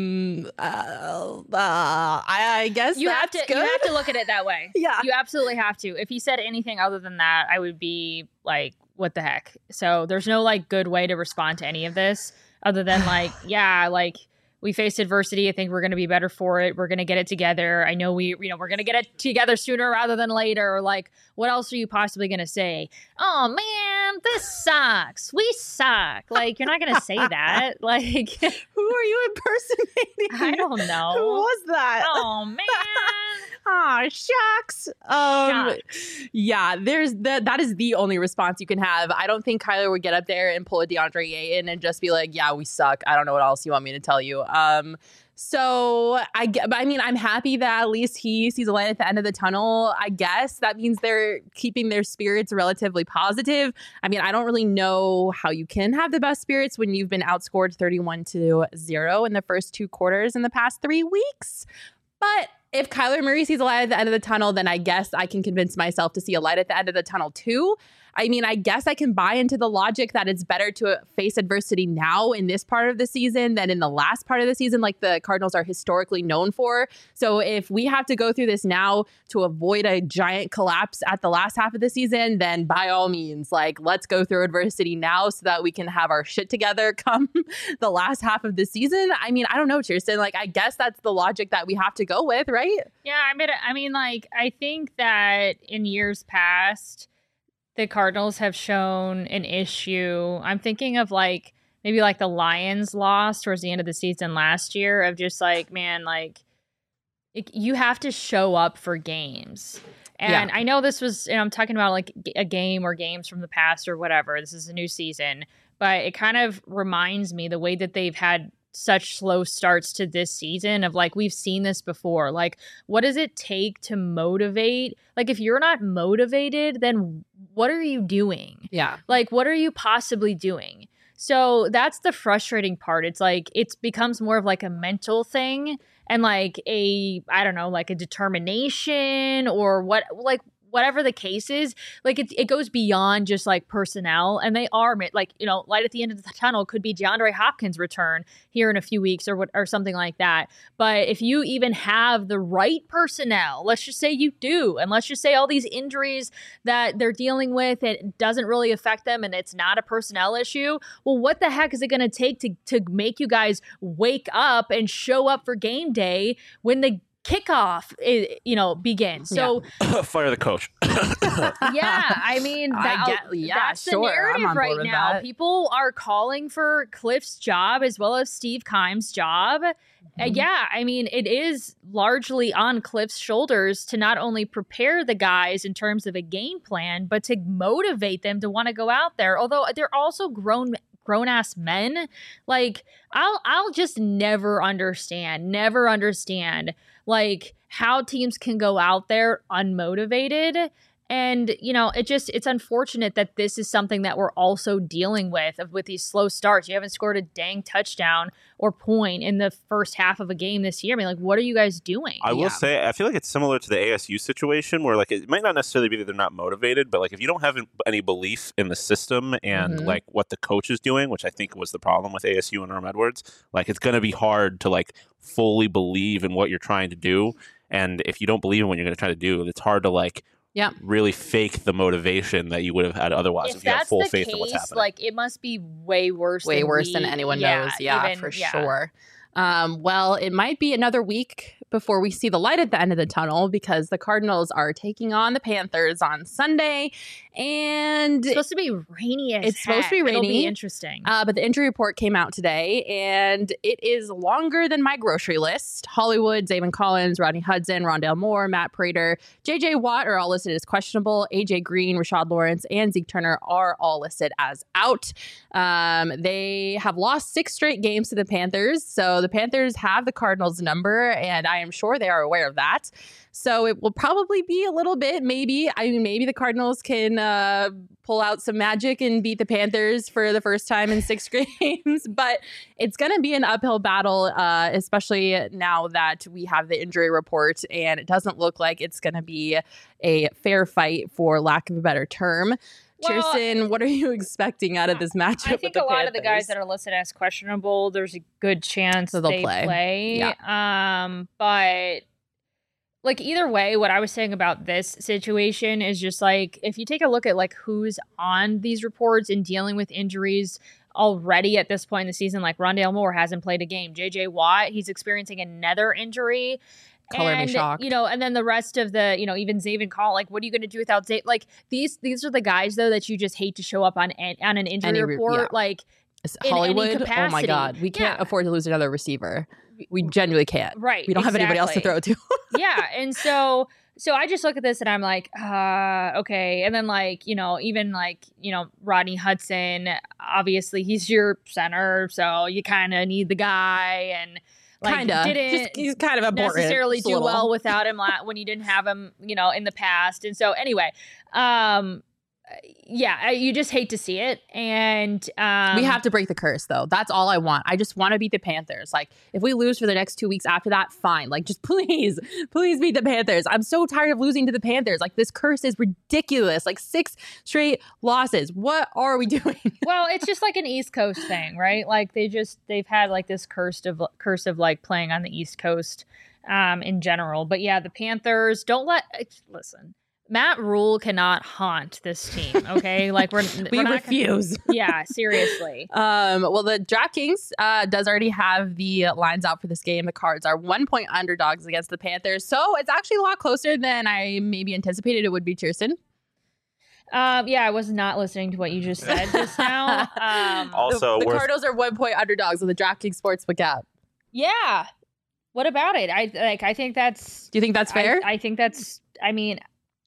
guess you have to look at it that way. Yeah, you absolutely have to. If he said anything other than that, I would be like, what the heck? So there's no good way to respond to any of this other than we faced adversity. I think we're going to be better for it. We're going to get it together. I know we're going to get it together sooner rather than later. What else are you possibly going to say? Oh man, this sucks. We suck. You're not going to say that. Who are you impersonating? I don't know. Who was that? Oh man. Aw, shucks. Yeah, that is the only response you can have. I don't think Kyler would get up there and pull a DeAndre Ayton and just be like, yeah, we suck. I don't know what else you want me to tell you. So I'm happy that at least he sees a light at the end of the tunnel. I guess that means they're keeping their spirits relatively positive. I don't really know how you can have the best spirits when you've been outscored 31-0 in the first 2 quarters in the past 3 weeks. But if Kyler Murray sees a light at the end of the tunnel, then I guess I can convince myself to see a light at the end of the tunnel too. I guess I can buy into the logic that it's better to face adversity now in this part of the season than in the last part of the season, like the Cardinals are historically known for. So if we have to go through this now to avoid a giant collapse at the last half of the season, then by all means, let's go through adversity now so that we can have our shit together come the last half of the season. I don't know, Kirsten, I guess that's the logic that we have to go with, right? Yeah, I think that in years past, the Cardinals have shown an issue. I'm thinking of maybe the Lions loss towards the end of the season last year of just you have to show up for games. And I know this was, I'm talking about a game or games from the past or whatever. This is a new season, but it kind of reminds me the way that they've had such slow starts to this season of we've seen this before. What does it take to motivate? If you're not motivated, then what are you doing? Yeah. What are you possibly doing? So that's the frustrating part. It's it becomes more of a mental thing and a determination or whatever the case is, it goes beyond just personnel, and they are light at the end of the tunnel could be DeAndre Hopkins' return here in a few weeks or something like that. But if you even have the right personnel, let's just say you do, and let's just say all these injuries that they're dealing with, it doesn't really affect them and it's not a personnel issue. Well, what the heck is it going to take to make you guys wake up and show up for game day when the kickoff begins? So fire the coach. That's the narrative right now. That. People are calling for Cliff's job as well as Steve Keim's job. It is largely on Cliff's shoulders to not only prepare the guys in terms of a game plan, but to motivate them to want to go out there. Although they're also grown-ass men. I'll just never understand how teams can go out there unmotivated. And, it's unfortunate that this is something that we're also dealing with these slow starts. You haven't scored a dang touchdown or point in the first half of a game this year. What are you guys doing? I will say, I feel like it's similar to the ASU situation where it might not necessarily be that they're not motivated, but if you don't have any belief in the system and what the coach is doing, which I think was the problem with ASU and Herm Edwards, it's going to be hard to fully believe in what you're trying to do. And if you don't believe in what you're going to try to do, it's hard to really fake the motivation that you would have had otherwise if you have full faith in what's happening. It must be way worse than anyone knows. Yeah, for sure. Well, it might be another week before we see the light at the end of the tunnel, because the Cardinals are taking on the Panthers on Sunday. And It's supposed to be rainy as It's supposed to be heck. It'll rainy. be interesting. but the injury report came out today, and it is longer than my grocery list. Hollywood, Zaven Collins, Rodney Hudson, Rondale Moore, Matt Prater, J.J. Watt are all listed as questionable. A.J. Green, Rashad Lawrence, and Zeke Turner are all listed as out. They have lost 6 straight games to the Panthers, so the Panthers have the Cardinals' number, and I am sure they are aware of that. So it will probably be a little bit, maybe the Cardinals can pull out some magic and beat the Panthers for the first time in 6 games. But it's going to be an uphill battle, especially now that we have the injury report, and it doesn't look like it's going to be a fair fight, for lack of a better term. Well, Cheerson, what are you expecting out of this matchup? I think with the a lot of the guys Panthers? that are listed as questionable, there's a good chance So they'll they play. But like either way, what I was saying about this situation is just like, if you take a look at like who's on these reports and dealing with injuries already at this point in the season, like Rondale Moore hasn't played a game. J.J. Watt, he's experiencing another injury. Color me And, shocked. and then the rest of the, even Zaven Call, like, what are you going to do without Zaven? Like, these are the guys, though, that you just hate to show up on an injury report. yeah. Like, in any Hollywood, oh my capacity. God, we can't Yeah. afford to lose another receiver. We genuinely can't. right. We don't have anybody else to throw exactly. to. Yeah. And so I just look at this and I'm like, okay. And then Rodney Hudson, obviously he's your center. So you kind of need the guy, and He's kind of important. necessarily just a do little. well without him when you didn't have him, in the past. And so anyway, you just hate to see it. And We have to break the curse, though. That's all I want. I just want to beat the Panthers. Like, if we lose for the next 2 weeks after that, fine. Like, just please beat the Panthers. I'm so tired of losing to the Panthers. Like, this curse is ridiculous. Like, 6 straight losses. What are we doing? well, it's just like an East Coast thing, right? Like they've had like this curse of like playing on the East Coast in general. But yeah, the Panthers listen. Matt Rule cannot haunt this team, okay? Like we refuse. Yeah, seriously. Well, the DraftKings does already have the lines out for this game. The Cards are 1-point underdogs against the Panthers. So it's actually a lot closer than I maybe anticipated it would be, Cheerson. I was not listening to what you just said just now. Also, the worth- Cardinals are 1-point underdogs with the DraftKings Sportsbook app. Yeah. What about it? I think that's... Do you think that's fair? I think that's... I mean...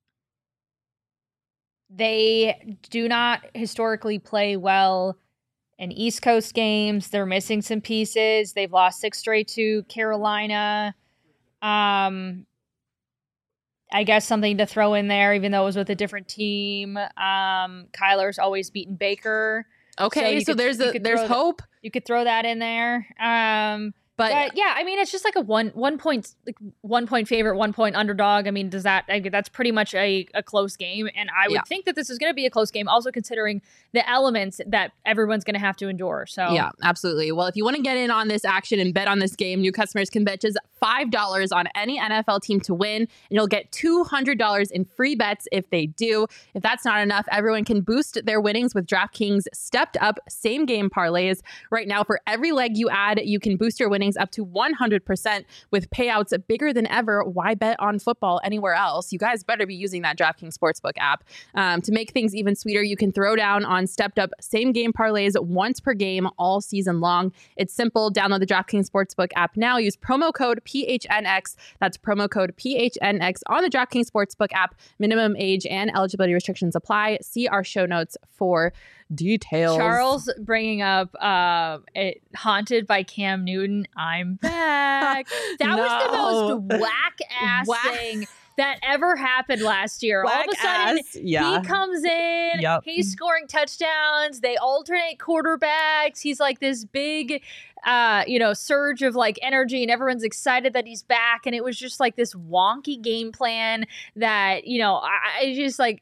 They do not historically play well in East Coast games. They're missing some pieces. They've lost 6 straight to Carolina. I guess something to throw in there, even though it was with a different team. Kyler's always beaten Baker. Okay, so there's hope. You could throw that in there. But yeah, I mean, it's just like a one point favorite, 1 point underdog. I mean, that's pretty much a close game. And I would think that this is going to be a close game, also considering the elements that everyone's going to have to endure. So yeah, absolutely. Well, if you want to get in on this action and bet on this game, new customers can bet just $5 on any NFL team to win, and you'll get $200 in free bets if they do. If that's not enough, everyone can boost their winnings with DraftKings stepped up same game parlays. Right now, for every leg you add, you can boost your winnings up to 100% with payouts bigger than ever. Why bet on football anywhere else? You guys better be using that DraftKings Sportsbook app. To make things even sweeter, you can throw down on stepped up same game parlays once per game all season long. It's simple. Download the DraftKings Sportsbook app now. Use promo code PHNX. That's promo code PHNX on the DraftKings Sportsbook app. Minimum age and eligibility restrictions apply. See our show notes for details. Charles bringing up it Haunted by Cam Newton. I'm back. That was the most whack ass thing that ever happened last year. All of a sudden, he comes in, he's scoring touchdowns, they alternate quarterbacks, he's like this big surge of like energy, and everyone's excited that he's back, and it was just like this wonky game plan that, I just like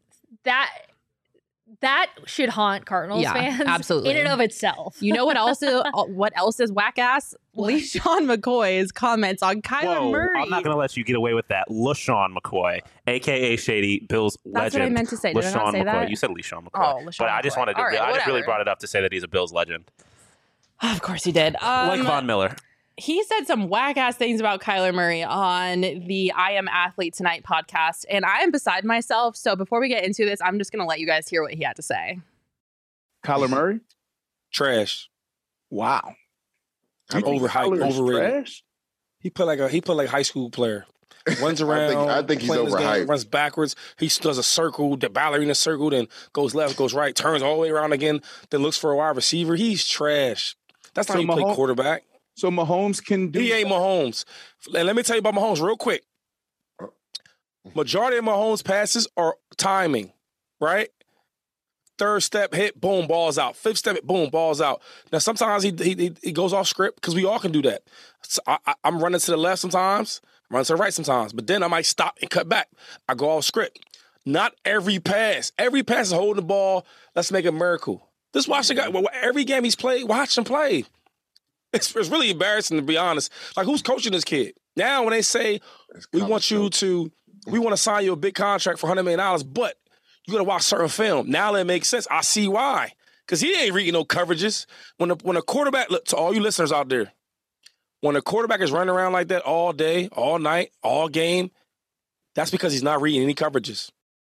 that should haunt Cardinals fans absolutely. in and of itself. You know what else is whack ass? LeSean McCoy's comments on Kyler Murray. I'm not going to let you get away with that. LeSean McCoy, a.k.a. Shady, Bills legend. That's what I meant to say. Did I not say McCoy. that? You said LeSean McCoy. Oh, LeSean but I just McCoy. wanted to, All right, I just really whatever. brought it up to say that he's a Bills legend. Of course he did. Like Von Miller. he said some whack ass things about Kyler Murray on the I Am Athlete Tonight podcast, and I am beside myself. So before we get into this, I'm just going to let you guys hear what he had to say. Kyler Murray? Trash. Wow. Overhyped, overrated. Trash? He played like a high school player. Runs around. I think he's playing his overhyped. game, runs backwards. He does a circle, the ballerina circle, then goes left, goes right, turns all the way around again, then looks for a wide receiver. He's trash. That's not how you play quarterback. So Mahomes can do. He ain't Mahomes. And let me tell you about Mahomes real quick. Majority of Mahomes' passes are timing, right? Third step hit, boom, ball's out. Fifth step hit, boom, ball's out. Now sometimes he goes off script because we all can do that. So I'm running to the left sometimes, I'm running to the right sometimes, but then I might stop and cut back. I go off script. Not every pass. Every pass is holding the ball. Let's make a miracle. Just watch the guy. Every game he's played, watch him play. It's really embarrassing, to be honest. Like, who's coaching this kid? Now, when they say, we want to sign you a big contract for $100 million, but you got to watch certain film. Now it makes sense. I see why. Because he ain't reading no coverages. When a quarterback, look, to all you listeners out there, when a quarterback is running around like that all day, all night, all game, that's because he's not reading any coverages.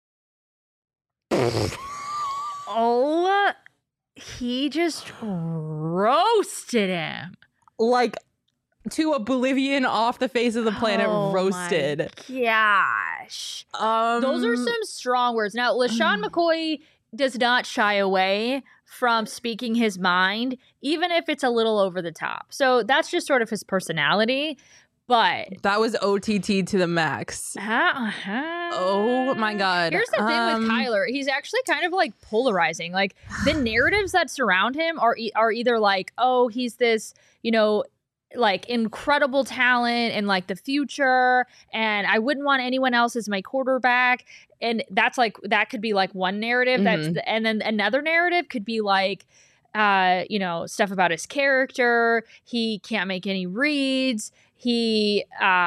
Oh, he just roasted him. Like, to oblivion, off the face of the planet, roasted. Gosh. Those are some strong words. Now, LaShawn McCoy does not shy away from speaking his mind, even if it's a little over the top. So that's just sort of his personality. But that was OTT to the max. Oh my God. Here's the thing with Kyler. He's actually kind of like polarizing. Like, the narratives that surround him are either like, oh, he's this, like incredible talent and like the future, and I wouldn't want anyone else as my quarterback. And that's like, that could be like one narrative. And then another narrative could be like, stuff about his character. He can't make any reads. He,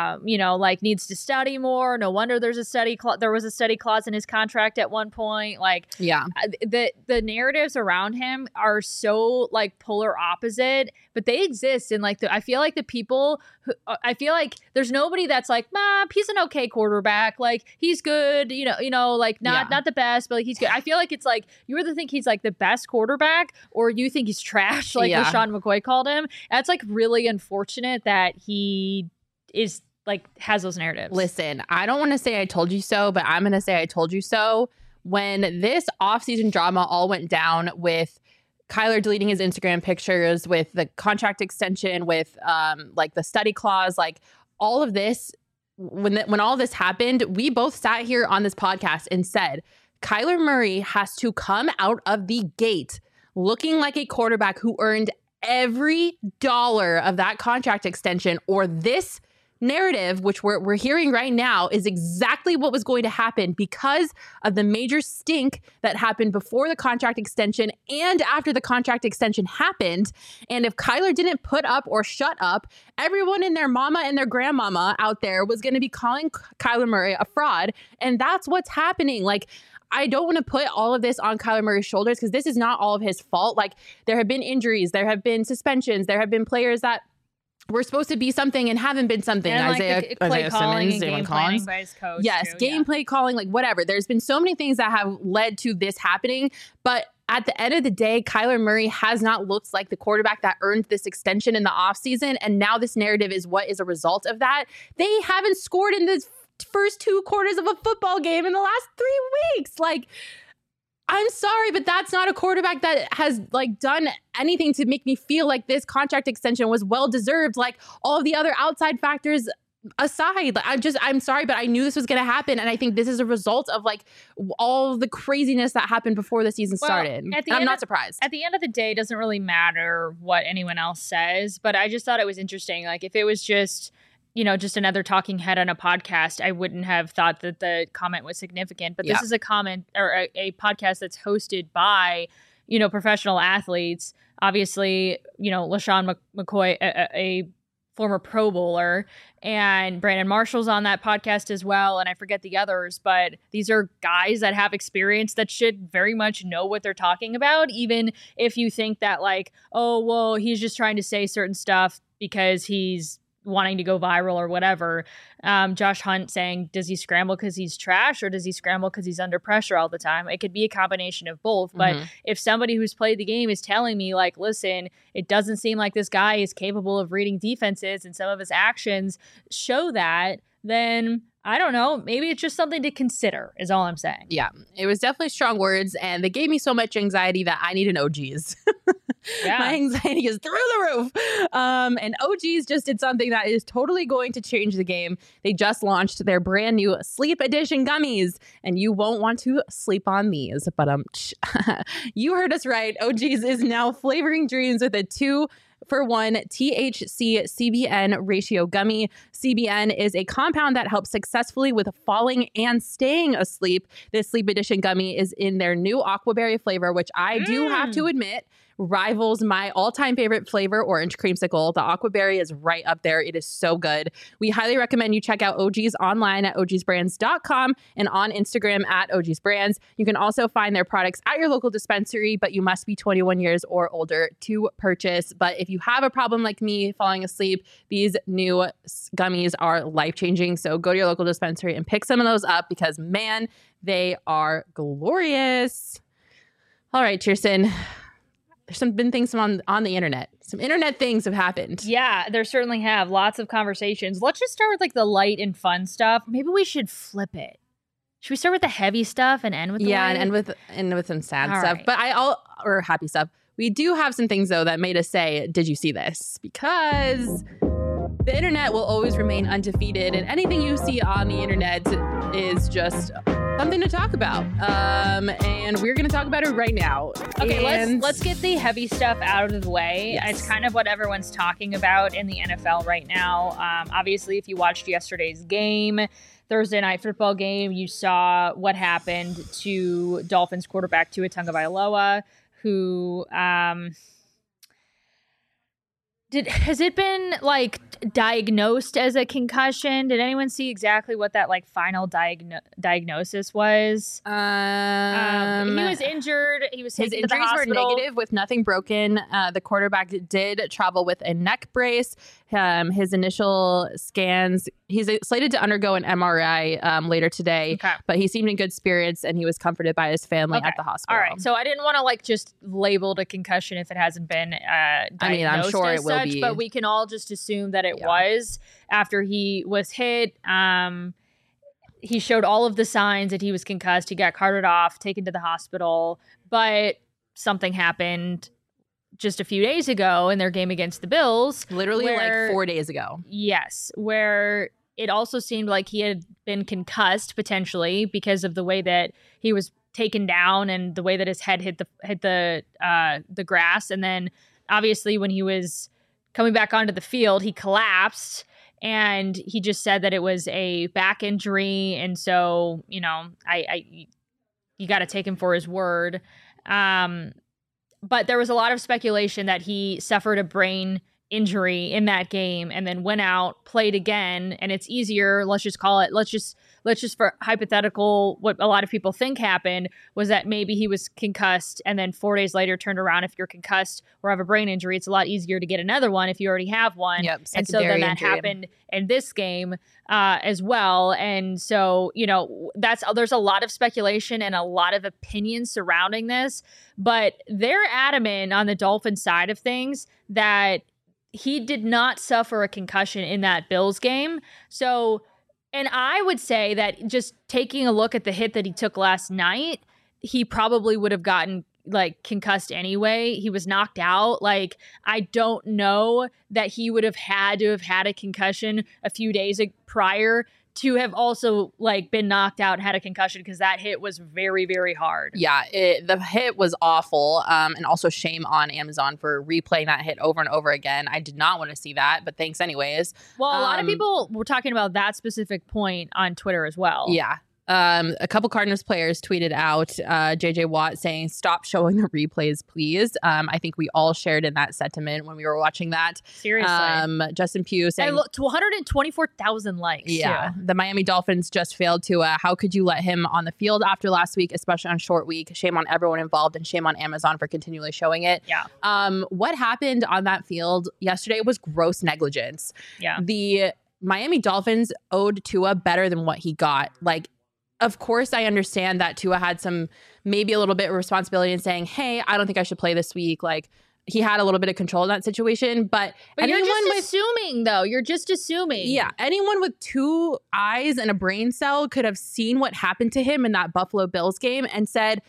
needs to study more. No wonder there was a study clause in his contract at one point. Like, yeah, the narratives around him are so like polar opposite, but they exist. And like, I feel like the people who, I feel like there's nobody that's like, he's an okay quarterback. Like, he's good, like not the best, but like, he's good. I feel like it's like, you either think he's like the best quarterback or you think he's trash, like LaShawn McCoy called him. That's like really unfortunate that he is like has those narratives. Listen, I don't want to say I told you so, but I'm going to say I told you so. When this offseason drama all went down with Kyler deleting his Instagram pictures, with the contract extension, with like the study clause, like all of this, when all this happened, we both sat here on this podcast and said, Kyler Murray has to come out of the gate looking like a quarterback who earned every dollar of that contract extension, or this narrative, which we're hearing right now, is exactly what was going to happen because of the major stink that happened before the contract extension and after the contract extension happened. And if Kyler didn't put up or shut up, everyone and their mama and their grandmama out there was going to be calling Kyler Murray a fraud. And that's what's happening. Like, I don't want to put all of this on Kyler Murray's shoulders because this is not all of his fault. Like, there have been injuries, there have been suspensions, there have been players that were supposed to be something and haven't been something. And Isaiah calling Simmons, and game planning by his coach. Yes, too, gameplay calling, like whatever. There's been so many things that have led to this happening, but at the end of the day, Kyler Murray has not looked like the quarterback that earned this extension in the offseason, and now this narrative is what is a result of that. They haven't scored in this first 2 quarters of a football game in the last 3 weeks. Like, I'm sorry, but that's not a quarterback that has like done anything to make me feel like this contract extension was well deserved. Like, all of the other outside factors aside, I'm sorry, but I knew this was going to happen. And I think this is a result of like all the craziness that happened before the season started. I'm not surprised. At the end of the day, it doesn't really matter what anyone else says, but I just thought it was interesting. Like, if it was just another talking head on a podcast, I wouldn't have thought that the comment was significant. But this is a comment or a podcast that's hosted by, professional athletes. Obviously, LaShawn McCoy, a former Pro Bowler, and Brandon Marshall's on that podcast as well. And I forget the others, but these are guys that have experience that should very much know what they're talking about. Even if you think that like, oh, well, he's just trying to say certain stuff because he's wanting to go viral or whatever. Josh Hunt saying, does he scramble because he's trash or does he scramble because he's under pressure all the time? It could be a combination of both. But if somebody who's played the game is telling me, like, listen, it doesn't seem like this guy is capable of reading defenses and some of his actions show that, then I don't know. Maybe it's just something to consider is all I'm saying. Yeah, it was definitely strong words, and they gave me so much anxiety that I need an OGs. Yeah. My anxiety is through the roof. And OGs just did something that is totally going to change the game. They just launched their brand new Sleep Edition gummies, and you won't want to sleep on these. But you heard us right. OGs is now flavoring dreams with a 2-for-1 THC CBN ratio gummy. CBN is a compound that helps successfully with falling and staying asleep. This Sleep Edition gummy is in their new aquaberry flavor, which I do have to admit rivals my all-time favorite flavor, orange creamsicle. The aquaberry is right up there. It is so good. We highly recommend you check out OGs online at ogsbrands.com and on Instagram at ogsbrands. You can also find their products at your local dispensary, but you must be 21 years or older to purchase. But if you have a problem like me falling asleep, these new gummies are life-changing. So go to your local dispensary and pick some of those up because, man, they are glorious. All right, Kirsten. There's been things on the internet. Some internet things have happened. Yeah, there certainly have. Lots of conversations. Let's just start with like the light and fun stuff. Maybe we should flip it. Should we start with the heavy stuff and end with the light? and end with some sad All stuff. right. But or happy stuff. We do have some things though that made us say, "Did you see this?" Because the internet will always remain undefeated, and anything you see on the internet is just something to talk about. And we're going to talk about it right now. Okay, and let's get the heavy stuff out of the way. Yes. It's kind of what everyone's talking about in the NFL right now. Obviously, if you watched yesterday's game, Thursday night football game, you saw what happened to Dolphins quarterback Tua Tagovailoa, who has it been like diagnosed as a concussion? Did anyone see exactly what that like final diagnosis was? He was injured. He was his taken to the injuries were hospital. negative with nothing broken. The quarterback did travel with a neck brace. His initial scans, he's slated to undergo an MRI later today, Okay. but he seemed in good spirits and he was comforted by his family Okay. at the hospital. All right. So I didn't want to like just label it a concussion if it hasn't been diagnosed. I mean, I'm sure as it will such, be. but we can all just assume that it Yeah. was after he was hit. He showed all of the signs that he was concussed. He got carted off, taken to the hospital, but something happened just a few days ago in their game against the Bills. Literally where- like 4 days ago. Yes, where it also seemed like he had been concussed potentially because of the way that he was taken down and the way that his head hit the grass, and then obviously when he was coming back onto the field, he collapsed, and he just said that it was a back injury, and so you got to take him for his word. But there was a lot of speculation that he suffered a brain injury in that game and then went out, played again, and it's easier. Let's just for hypothetical, what a lot of people think happened was that maybe he was concussed and then 4 days later turned around. If you're concussed or have a brain injury, it's a lot easier to get another one if you already have one. Yep, and so then secondary that injury. happened in this game as well. And so, there's a lot of speculation and a lot of opinions surrounding this, but they're adamant on the Dolphins side of things that he did not suffer a concussion in that Bills game. So, and I would say that just taking a look at the hit that he took last night, he probably would have gotten like concussed anyway. He was knocked out. Like, I don't know that he would have had a concussion a few days prior to have also like been knocked out and had a concussion, because that hit was very, very hard. Yeah, the hit was awful. And also shame on Amazon for replaying that hit over and over again. I did not want to see that, but thanks anyways. Well, a lot of people were talking about that specific point on Twitter as well. Yeah. A couple Cardinals players tweeted out JJ Watt saying, "Stop showing the replays, please." I think we all shared in that sentiment when we were watching that. Seriously. Justin Pugh saying, to 124,000 likes. Yeah, too. the Miami Dolphins just failed to. How could you let him on the field after last week, especially on short week? Shame on everyone involved, and shame on Amazon for continually showing it. Yeah. What happened on that field yesterday was gross negligence. Yeah. The Miami Dolphins owed Tua better than what he got. Like, of course, I understand that Tua had maybe a little bit of responsibility in saying, "Hey, I don't think I should play this week." Like, he had a little bit of control in that situation, but you're just assuming, though. You're just assuming. Yeah, anyone with 2 eyes and a brain cell could have seen what happened to him in that Buffalo Bills game and said,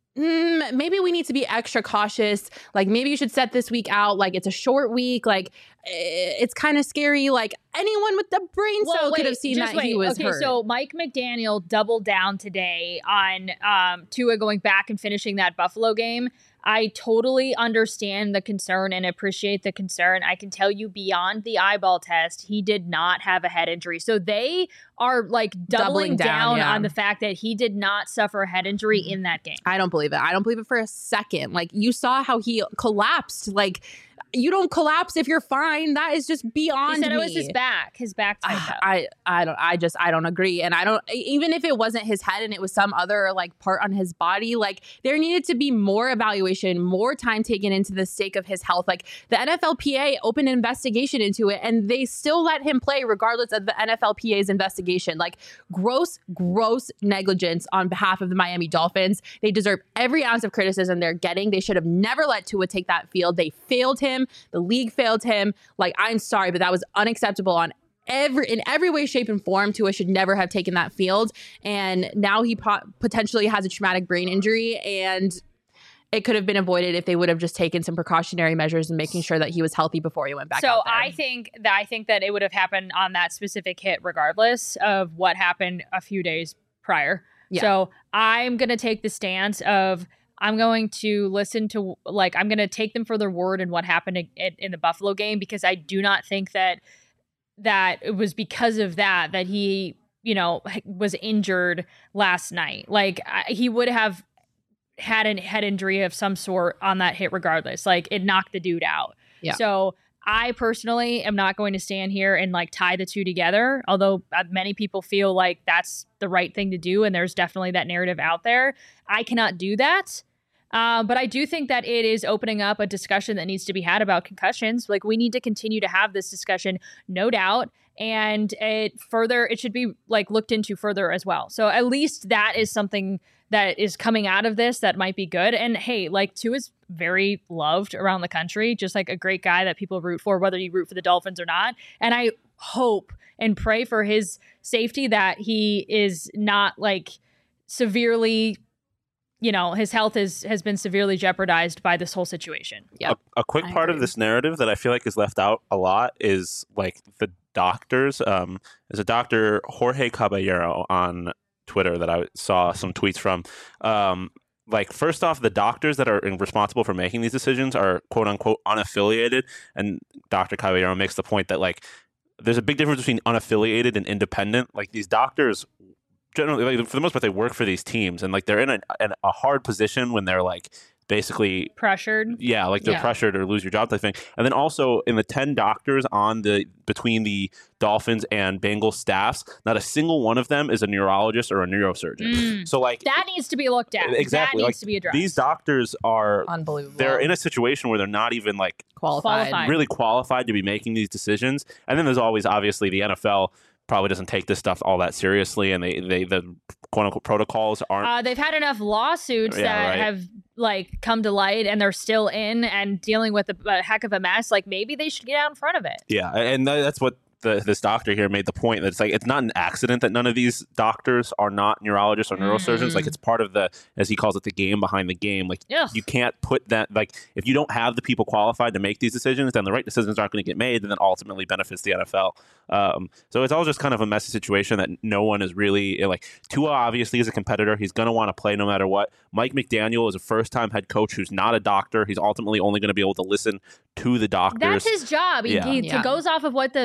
maybe we need to be extra cautious. Like, maybe you should set this week out. Like, it's a short week. Like, it's kind of scary. Like, anyone with the brain cell could have seen that he was hurt. So Mike McDaniel doubled down today on Tua going back and finishing that Buffalo game. I totally understand the concern and appreciate the concern. I can tell you beyond the eyeball test, he did not have a head injury. So they are like doubling down on the fact that he did not suffer a head injury in that game. I don't believe it. I don't believe it for a second. Like, you saw how he collapsed. Like, you don't collapse if you're fine. That is just beyond me. He said it was his back. His back tightened up. I don't agree. And I don't, even if it wasn't his head and it was some other like part on his body, like, there needed to be more evaluation, more time taken into the stake of his health. Like, the NFLPA opened an investigation into it and they still let him play regardless of the NFLPA's investigation. Like, gross negligence on behalf of the Miami Dolphins. They deserve every ounce of criticism they're getting. They should have never let Tua take that field. They failed him. The league failed him. Like, I'm sorry, but that was unacceptable in every way, shape, and form. Tua should never have taken that field. And now he potentially has a traumatic brain injury, and it could have been avoided if they would have just taken some precautionary measures and making sure that he was healthy before he went back out there. I think that it would have happened on that specific hit regardless of what happened a few days prior. Yeah. So I'm going to take the stance of, I'm going to listen to, like, I'm going to take them for their word in what happened in the Buffalo game, because I do not think that it was because of that he, was injured last night. Like, he would have had a head injury of some sort on that hit regardless. Like, it knocked the dude out. Yeah. So I personally am not going to stand here and like tie the two together, although many people feel like that's the right thing to do. And there's definitely that narrative out there. I cannot do that. But I do think that it is opening up a discussion that needs to be had about concussions. Like, we need to continue to have this discussion, no doubt. And it should be like looked into further as well. So at least that is something that is coming out of this that might be good. And hey, like, Tua is very loved around the country, just like a great guy that people root for, whether you root for the Dolphins or not. And I hope and pray for his safety, that he is not like severely, his health has been severely jeopardized by this whole situation. Yeah. A quick part of this narrative that I feel like is left out a lot is like the doctors. There's a doctor, Jorge Caballero, on Twitter that I saw some tweets from. Like, first off, the doctors that are responsible for making these decisions are quote unquote unaffiliated. And Dr. Caballero makes the point that, like, there's a big difference between unaffiliated and independent. Like, these doctors generally, like, for the most part, they work for these teams, and like, they're in a hard position when they're like basically pressured. Yeah, like they're pressured or lose your job type thing. And then also in the 10 doctors between the Dolphins and Bengals staffs, not a single one of them is a neurologist or a neurosurgeon. So like, that needs to be looked at. Exactly. That needs to be addressed. These doctors are unbelievable. They're in a situation where they're not even like really qualified to be making these decisions. And then there's always obviously the NFL probably doesn't take this stuff all that seriously, and the quote unquote protocols aren't. They've had enough lawsuits that have like come to light, and they're still in and dealing with a heck of a mess. Like, maybe they should get out in front of it. Yeah, and that's what this doctor here made the point, that it's like, it's not an accident that none of these doctors are not neurologists or neurosurgeons. Like, it's part of the, as he calls it, the game behind the game. Like, you can't put that, like, if you don't have the people qualified to make these decisions, then the right decisions aren't going to get made, and then ultimately benefits the NFL. So it's all just kind of a messy situation that no one is really like. Tua obviously is a competitor. He's going to want to play no matter what. Mike McDaniel is a first-time head coach who's not a doctor. He's ultimately only going to be able to listen to the doctors. That's his job. He goes off of what the medical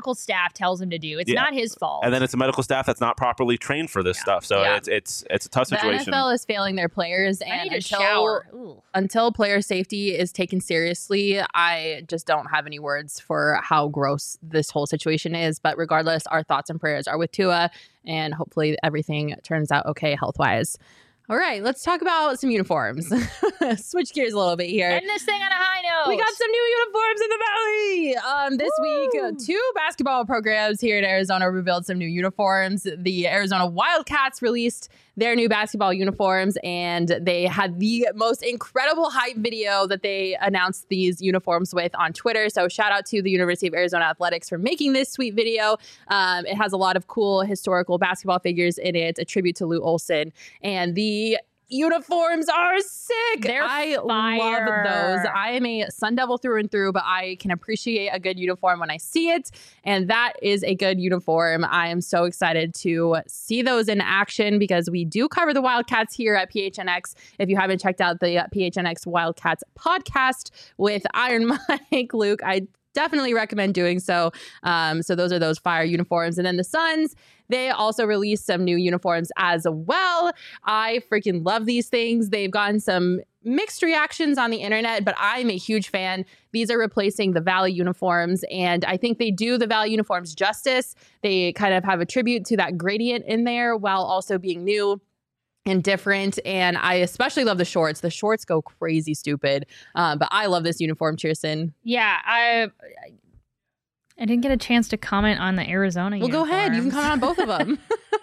medical staff tells him to do. It's Yeah. not his fault. And then it's a medical staff that's not properly trained for this stuff. So Yeah. it's a tough situation. The NFL is failing their players, I and need to shower. Ooh. until player safety is taken seriously, I just don't have any words for how gross this whole situation is. But regardless, our thoughts and prayers are with Tua, and hopefully everything turns out okay health-wise. All right, let's talk about some uniforms. Switch gears a little bit here. End this thing on a high note. We got some new uniforms in the Valley. This week, 2 basketball programs here in Arizona revealed some new uniforms. The Arizona Wildcats released their new basketball uniforms, and they had the most incredible hype video that they announced these uniforms with on Twitter. So shout out to the University of Arizona Athletics for making this sweet video. It has a lot of cool historical basketball figures in it, a tribute to Lou Olson, and the uniforms are sick. I love those. I am a Sun Devil through and through, but I can appreciate a good uniform when I see it, and that is a good uniform. I am so excited to see those in action because we do cover the Wildcats here at PHNX. If you haven't checked out the PHNX Wildcats podcast with Iron Mike Luke, I definitely recommend doing so. So those are those fire uniforms. And then the Suns, they also released some new uniforms as well. I freaking love these things. They've gotten some mixed reactions on the internet, but I'm a huge fan. These are replacing the Valley uniforms, and I think they do the Valley uniforms justice. They kind of have a tribute to that gradient in there while also being new and different. And I especially love the shorts. The shorts go crazy stupid. But I love this uniform, Cheerson. Yeah, I didn't get a chance to comment on the Arizona Well, uniforms. go ahead. You can comment on both of them.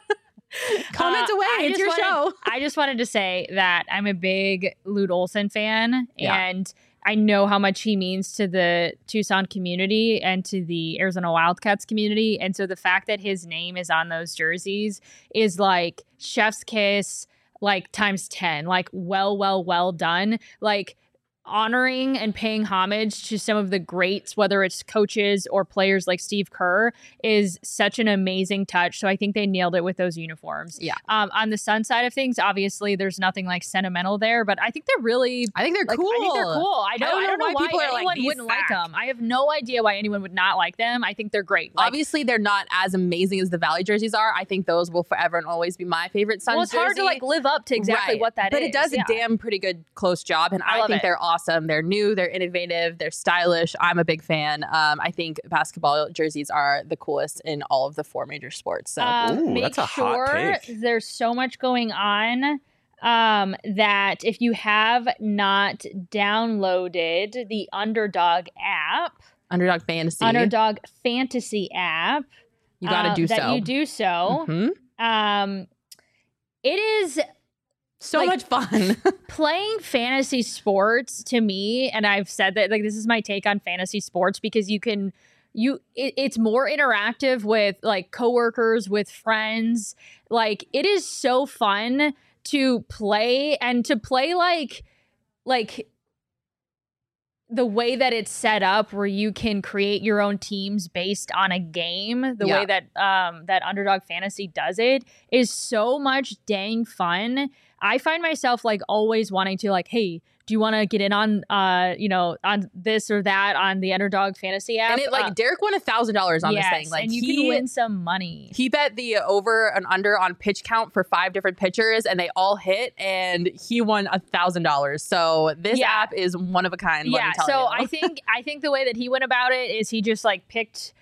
Comment away. It's your show. I just wanted to say that I'm a big Lute Olson fan, Yeah. and I know how much he means to the Tucson community and to the Arizona Wildcats community. And so the fact that his name is on those jerseys is like chef's kiss, like times 10, like well done. Like honoring and paying homage to some of the greats, whether it's coaches or players like Steve Kerr, is such an amazing touch. So I think they nailed it with those uniforms. Yeah. On the Sun side of things, obviously there's nothing like sentimental there, but I think they're really I think they're cool. I think they're cool. I don't know why people are anyone like, these wouldn't like suck. them. I have no idea why anyone would not like them. I think they're great. Like, Obviously, they're not as amazing as the Valley jerseys are. I think those will forever and always be my favorite Suns well, it's hard to jersey. like live up to exactly Right. what that is. But it does Yeah. a damn pretty good close job, and I I love think it. they're awesome. They're new, they're innovative, they're stylish. I'm a big fan. I think basketball jerseys are the coolest in all of the 4 major sports. So Ooh, make that's a hot sure take. there's so much going on that if you have not downloaded the Underdog app, Underdog Fantasy, Underdog Fantasy app, you got to do that so. you do so. Mhm. It is So like- much fun. playing fantasy sports to me, and I've said that like this is my take on fantasy sports because it's more interactive with like coworkers, with friends. Like it is so fun to play and to play like the way that it's set up where you can create your own teams based on a game, the Yeah. way that that Underdog Fantasy does it is so much dang fun. I find myself like always wanting to like, hey, do you want to get in on on this or that on the Underdog Fantasy app? And it like Derek won $1,000 on yes, this thing. Like and you can win some money. He bet the over and under on pitch count for 5 different pitchers, and they all hit, and he won $1,000. So this Yeah. app is one of a kind. Let me tell so you. I think the way that he went about it is he just like picked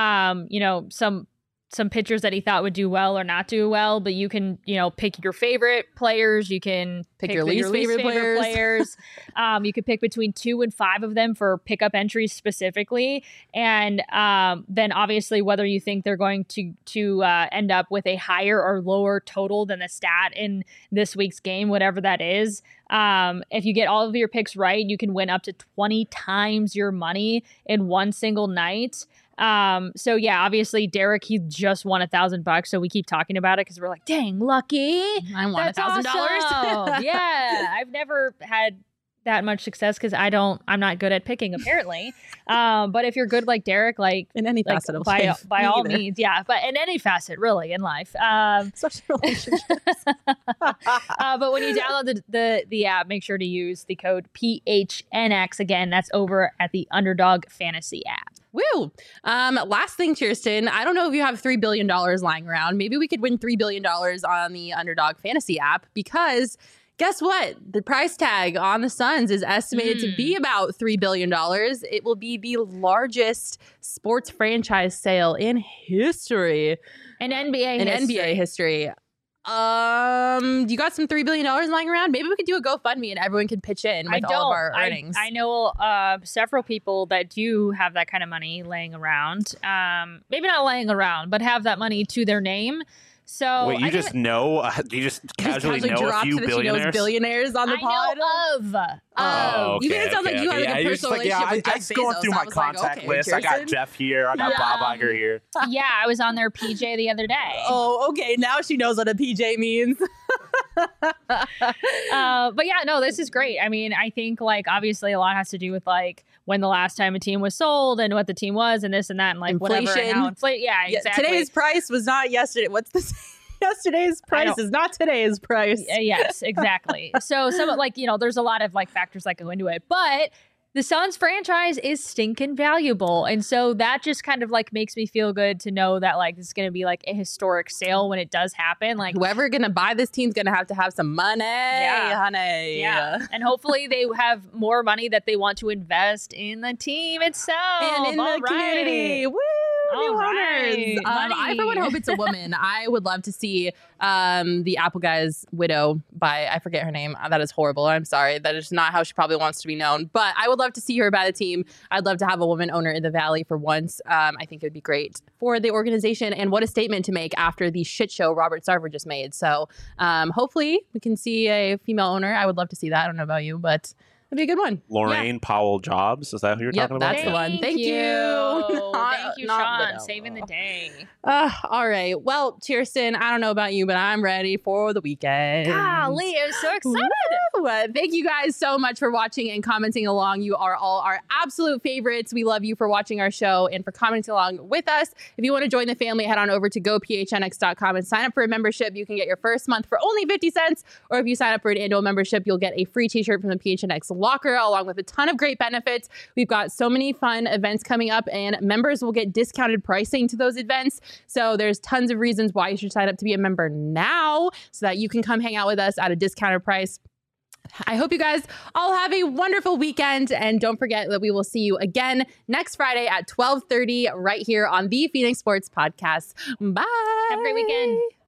some pitchers that he thought would do well or not do well, but you can, pick your favorite players. You can Pick your least favorite players. You could pick between 2 and 5 of them for pickup entries specifically. And then obviously whether you think they're going to end up with a higher or lower total than the stat in this week's game, whatever that is. If you get all of your picks right, you can win up to 20 times your money in one single night. So yeah, obviously Derek, he just won $1,000, so we keep talking about it because we're like, dang, lucky. I won That's $1,000. awesome. Yeah, I've never had that much success because I'm not good at picking apparently. But if you're good like Derek, like In any like, facet of by life. Me all either. means, yeah, but in any facet really in life. Especially relationships. But when you download the app, make sure to use the code PHNX. Again, that's over at the Underdog Fantasy app. Woo! Last thing, Kirsten, I don't know if you have $3 billion lying around. Maybe we could win $3 billion on the Underdog Fantasy app because guess what? The price tag on the Suns is estimated to be about $3 billion. It will be the largest sports franchise sale in history. In NBA history. You got some $3 billion lying around? Maybe we could do a GoFundMe and everyone could pitch in with all of our earnings. I know several people that do have that kind of money laying around. Maybe not laying around, but have that money to their name. So wait, you just know? Do you just casually know a few billionaires? She knows billionaires on the pod? I know of. You made it sound like you had like a personal relationship with Jeff I was going Bezos. through my contact list. I got Jeff here. I got Bob Iger here. Yeah, I was on their PJ the other day. Oh, okay. Now she knows what a PJ means. But yeah, no, this is great. I mean, I think like obviously a lot has to do with like when the last time a team was sold and what the team was and this and that and like inflation. Whatever. And how yeah, exactly. Today's price was not yesterday. What's the yesterday's price is not today's price. Yes, exactly. So some like, there's a lot of like factors that go into it, but the Suns franchise is stinking valuable. And so that just kind of like makes me feel good to know that like this is going to be like a historic sale when it does happen. Like whoever going to buy this team's going to have some money, honey. Yeah. And hopefully they have more money that they want to invest in the team itself. And in the community. Woo! New owners. I for one hope it's a woman. I would love to see the Apple Guy's widow by, I forget her name. That is horrible. I'm sorry. That is not how she probably wants to be known. But I would love to see her by the team. I'd love to have a woman owner in the Valley for once. I think it would be great for the organization. And what a statement to make after the shit show Robert Sarver just made. So hopefully we can see a female owner. I would love to see that. I don't know about you, but that'd be a good one. Lorraine Powell Jobs. Is that who you're talking about? That's the one. Thank you. Thank you, Sean. Saving the day. All right. Well, Kirsten, I don't know about you, but I'm ready for the weekend. Golly, I'm so excited. Thank you guys so much for watching and commenting along. You are all our absolute favorites. We love you for watching our show and for commenting along with us. If you want to join the family, head on over to gophnx.com and sign up for a membership. You can get your first month for only 50 cents. Or if you sign up for an annual membership, you'll get a free t-shirt from the PHNX locker along with a ton of great benefits. We've got so many fun events coming up and members will get discounted pricing to those events. So there's tons of reasons why you should sign up to be a member now so that you can come hang out with us at a discounted price. I hope you guys all have a wonderful weekend. And don't forget that we will see you again next Friday at 12:30 right here on the Phoenix Sports Podcast. Bye. Have a great weekend.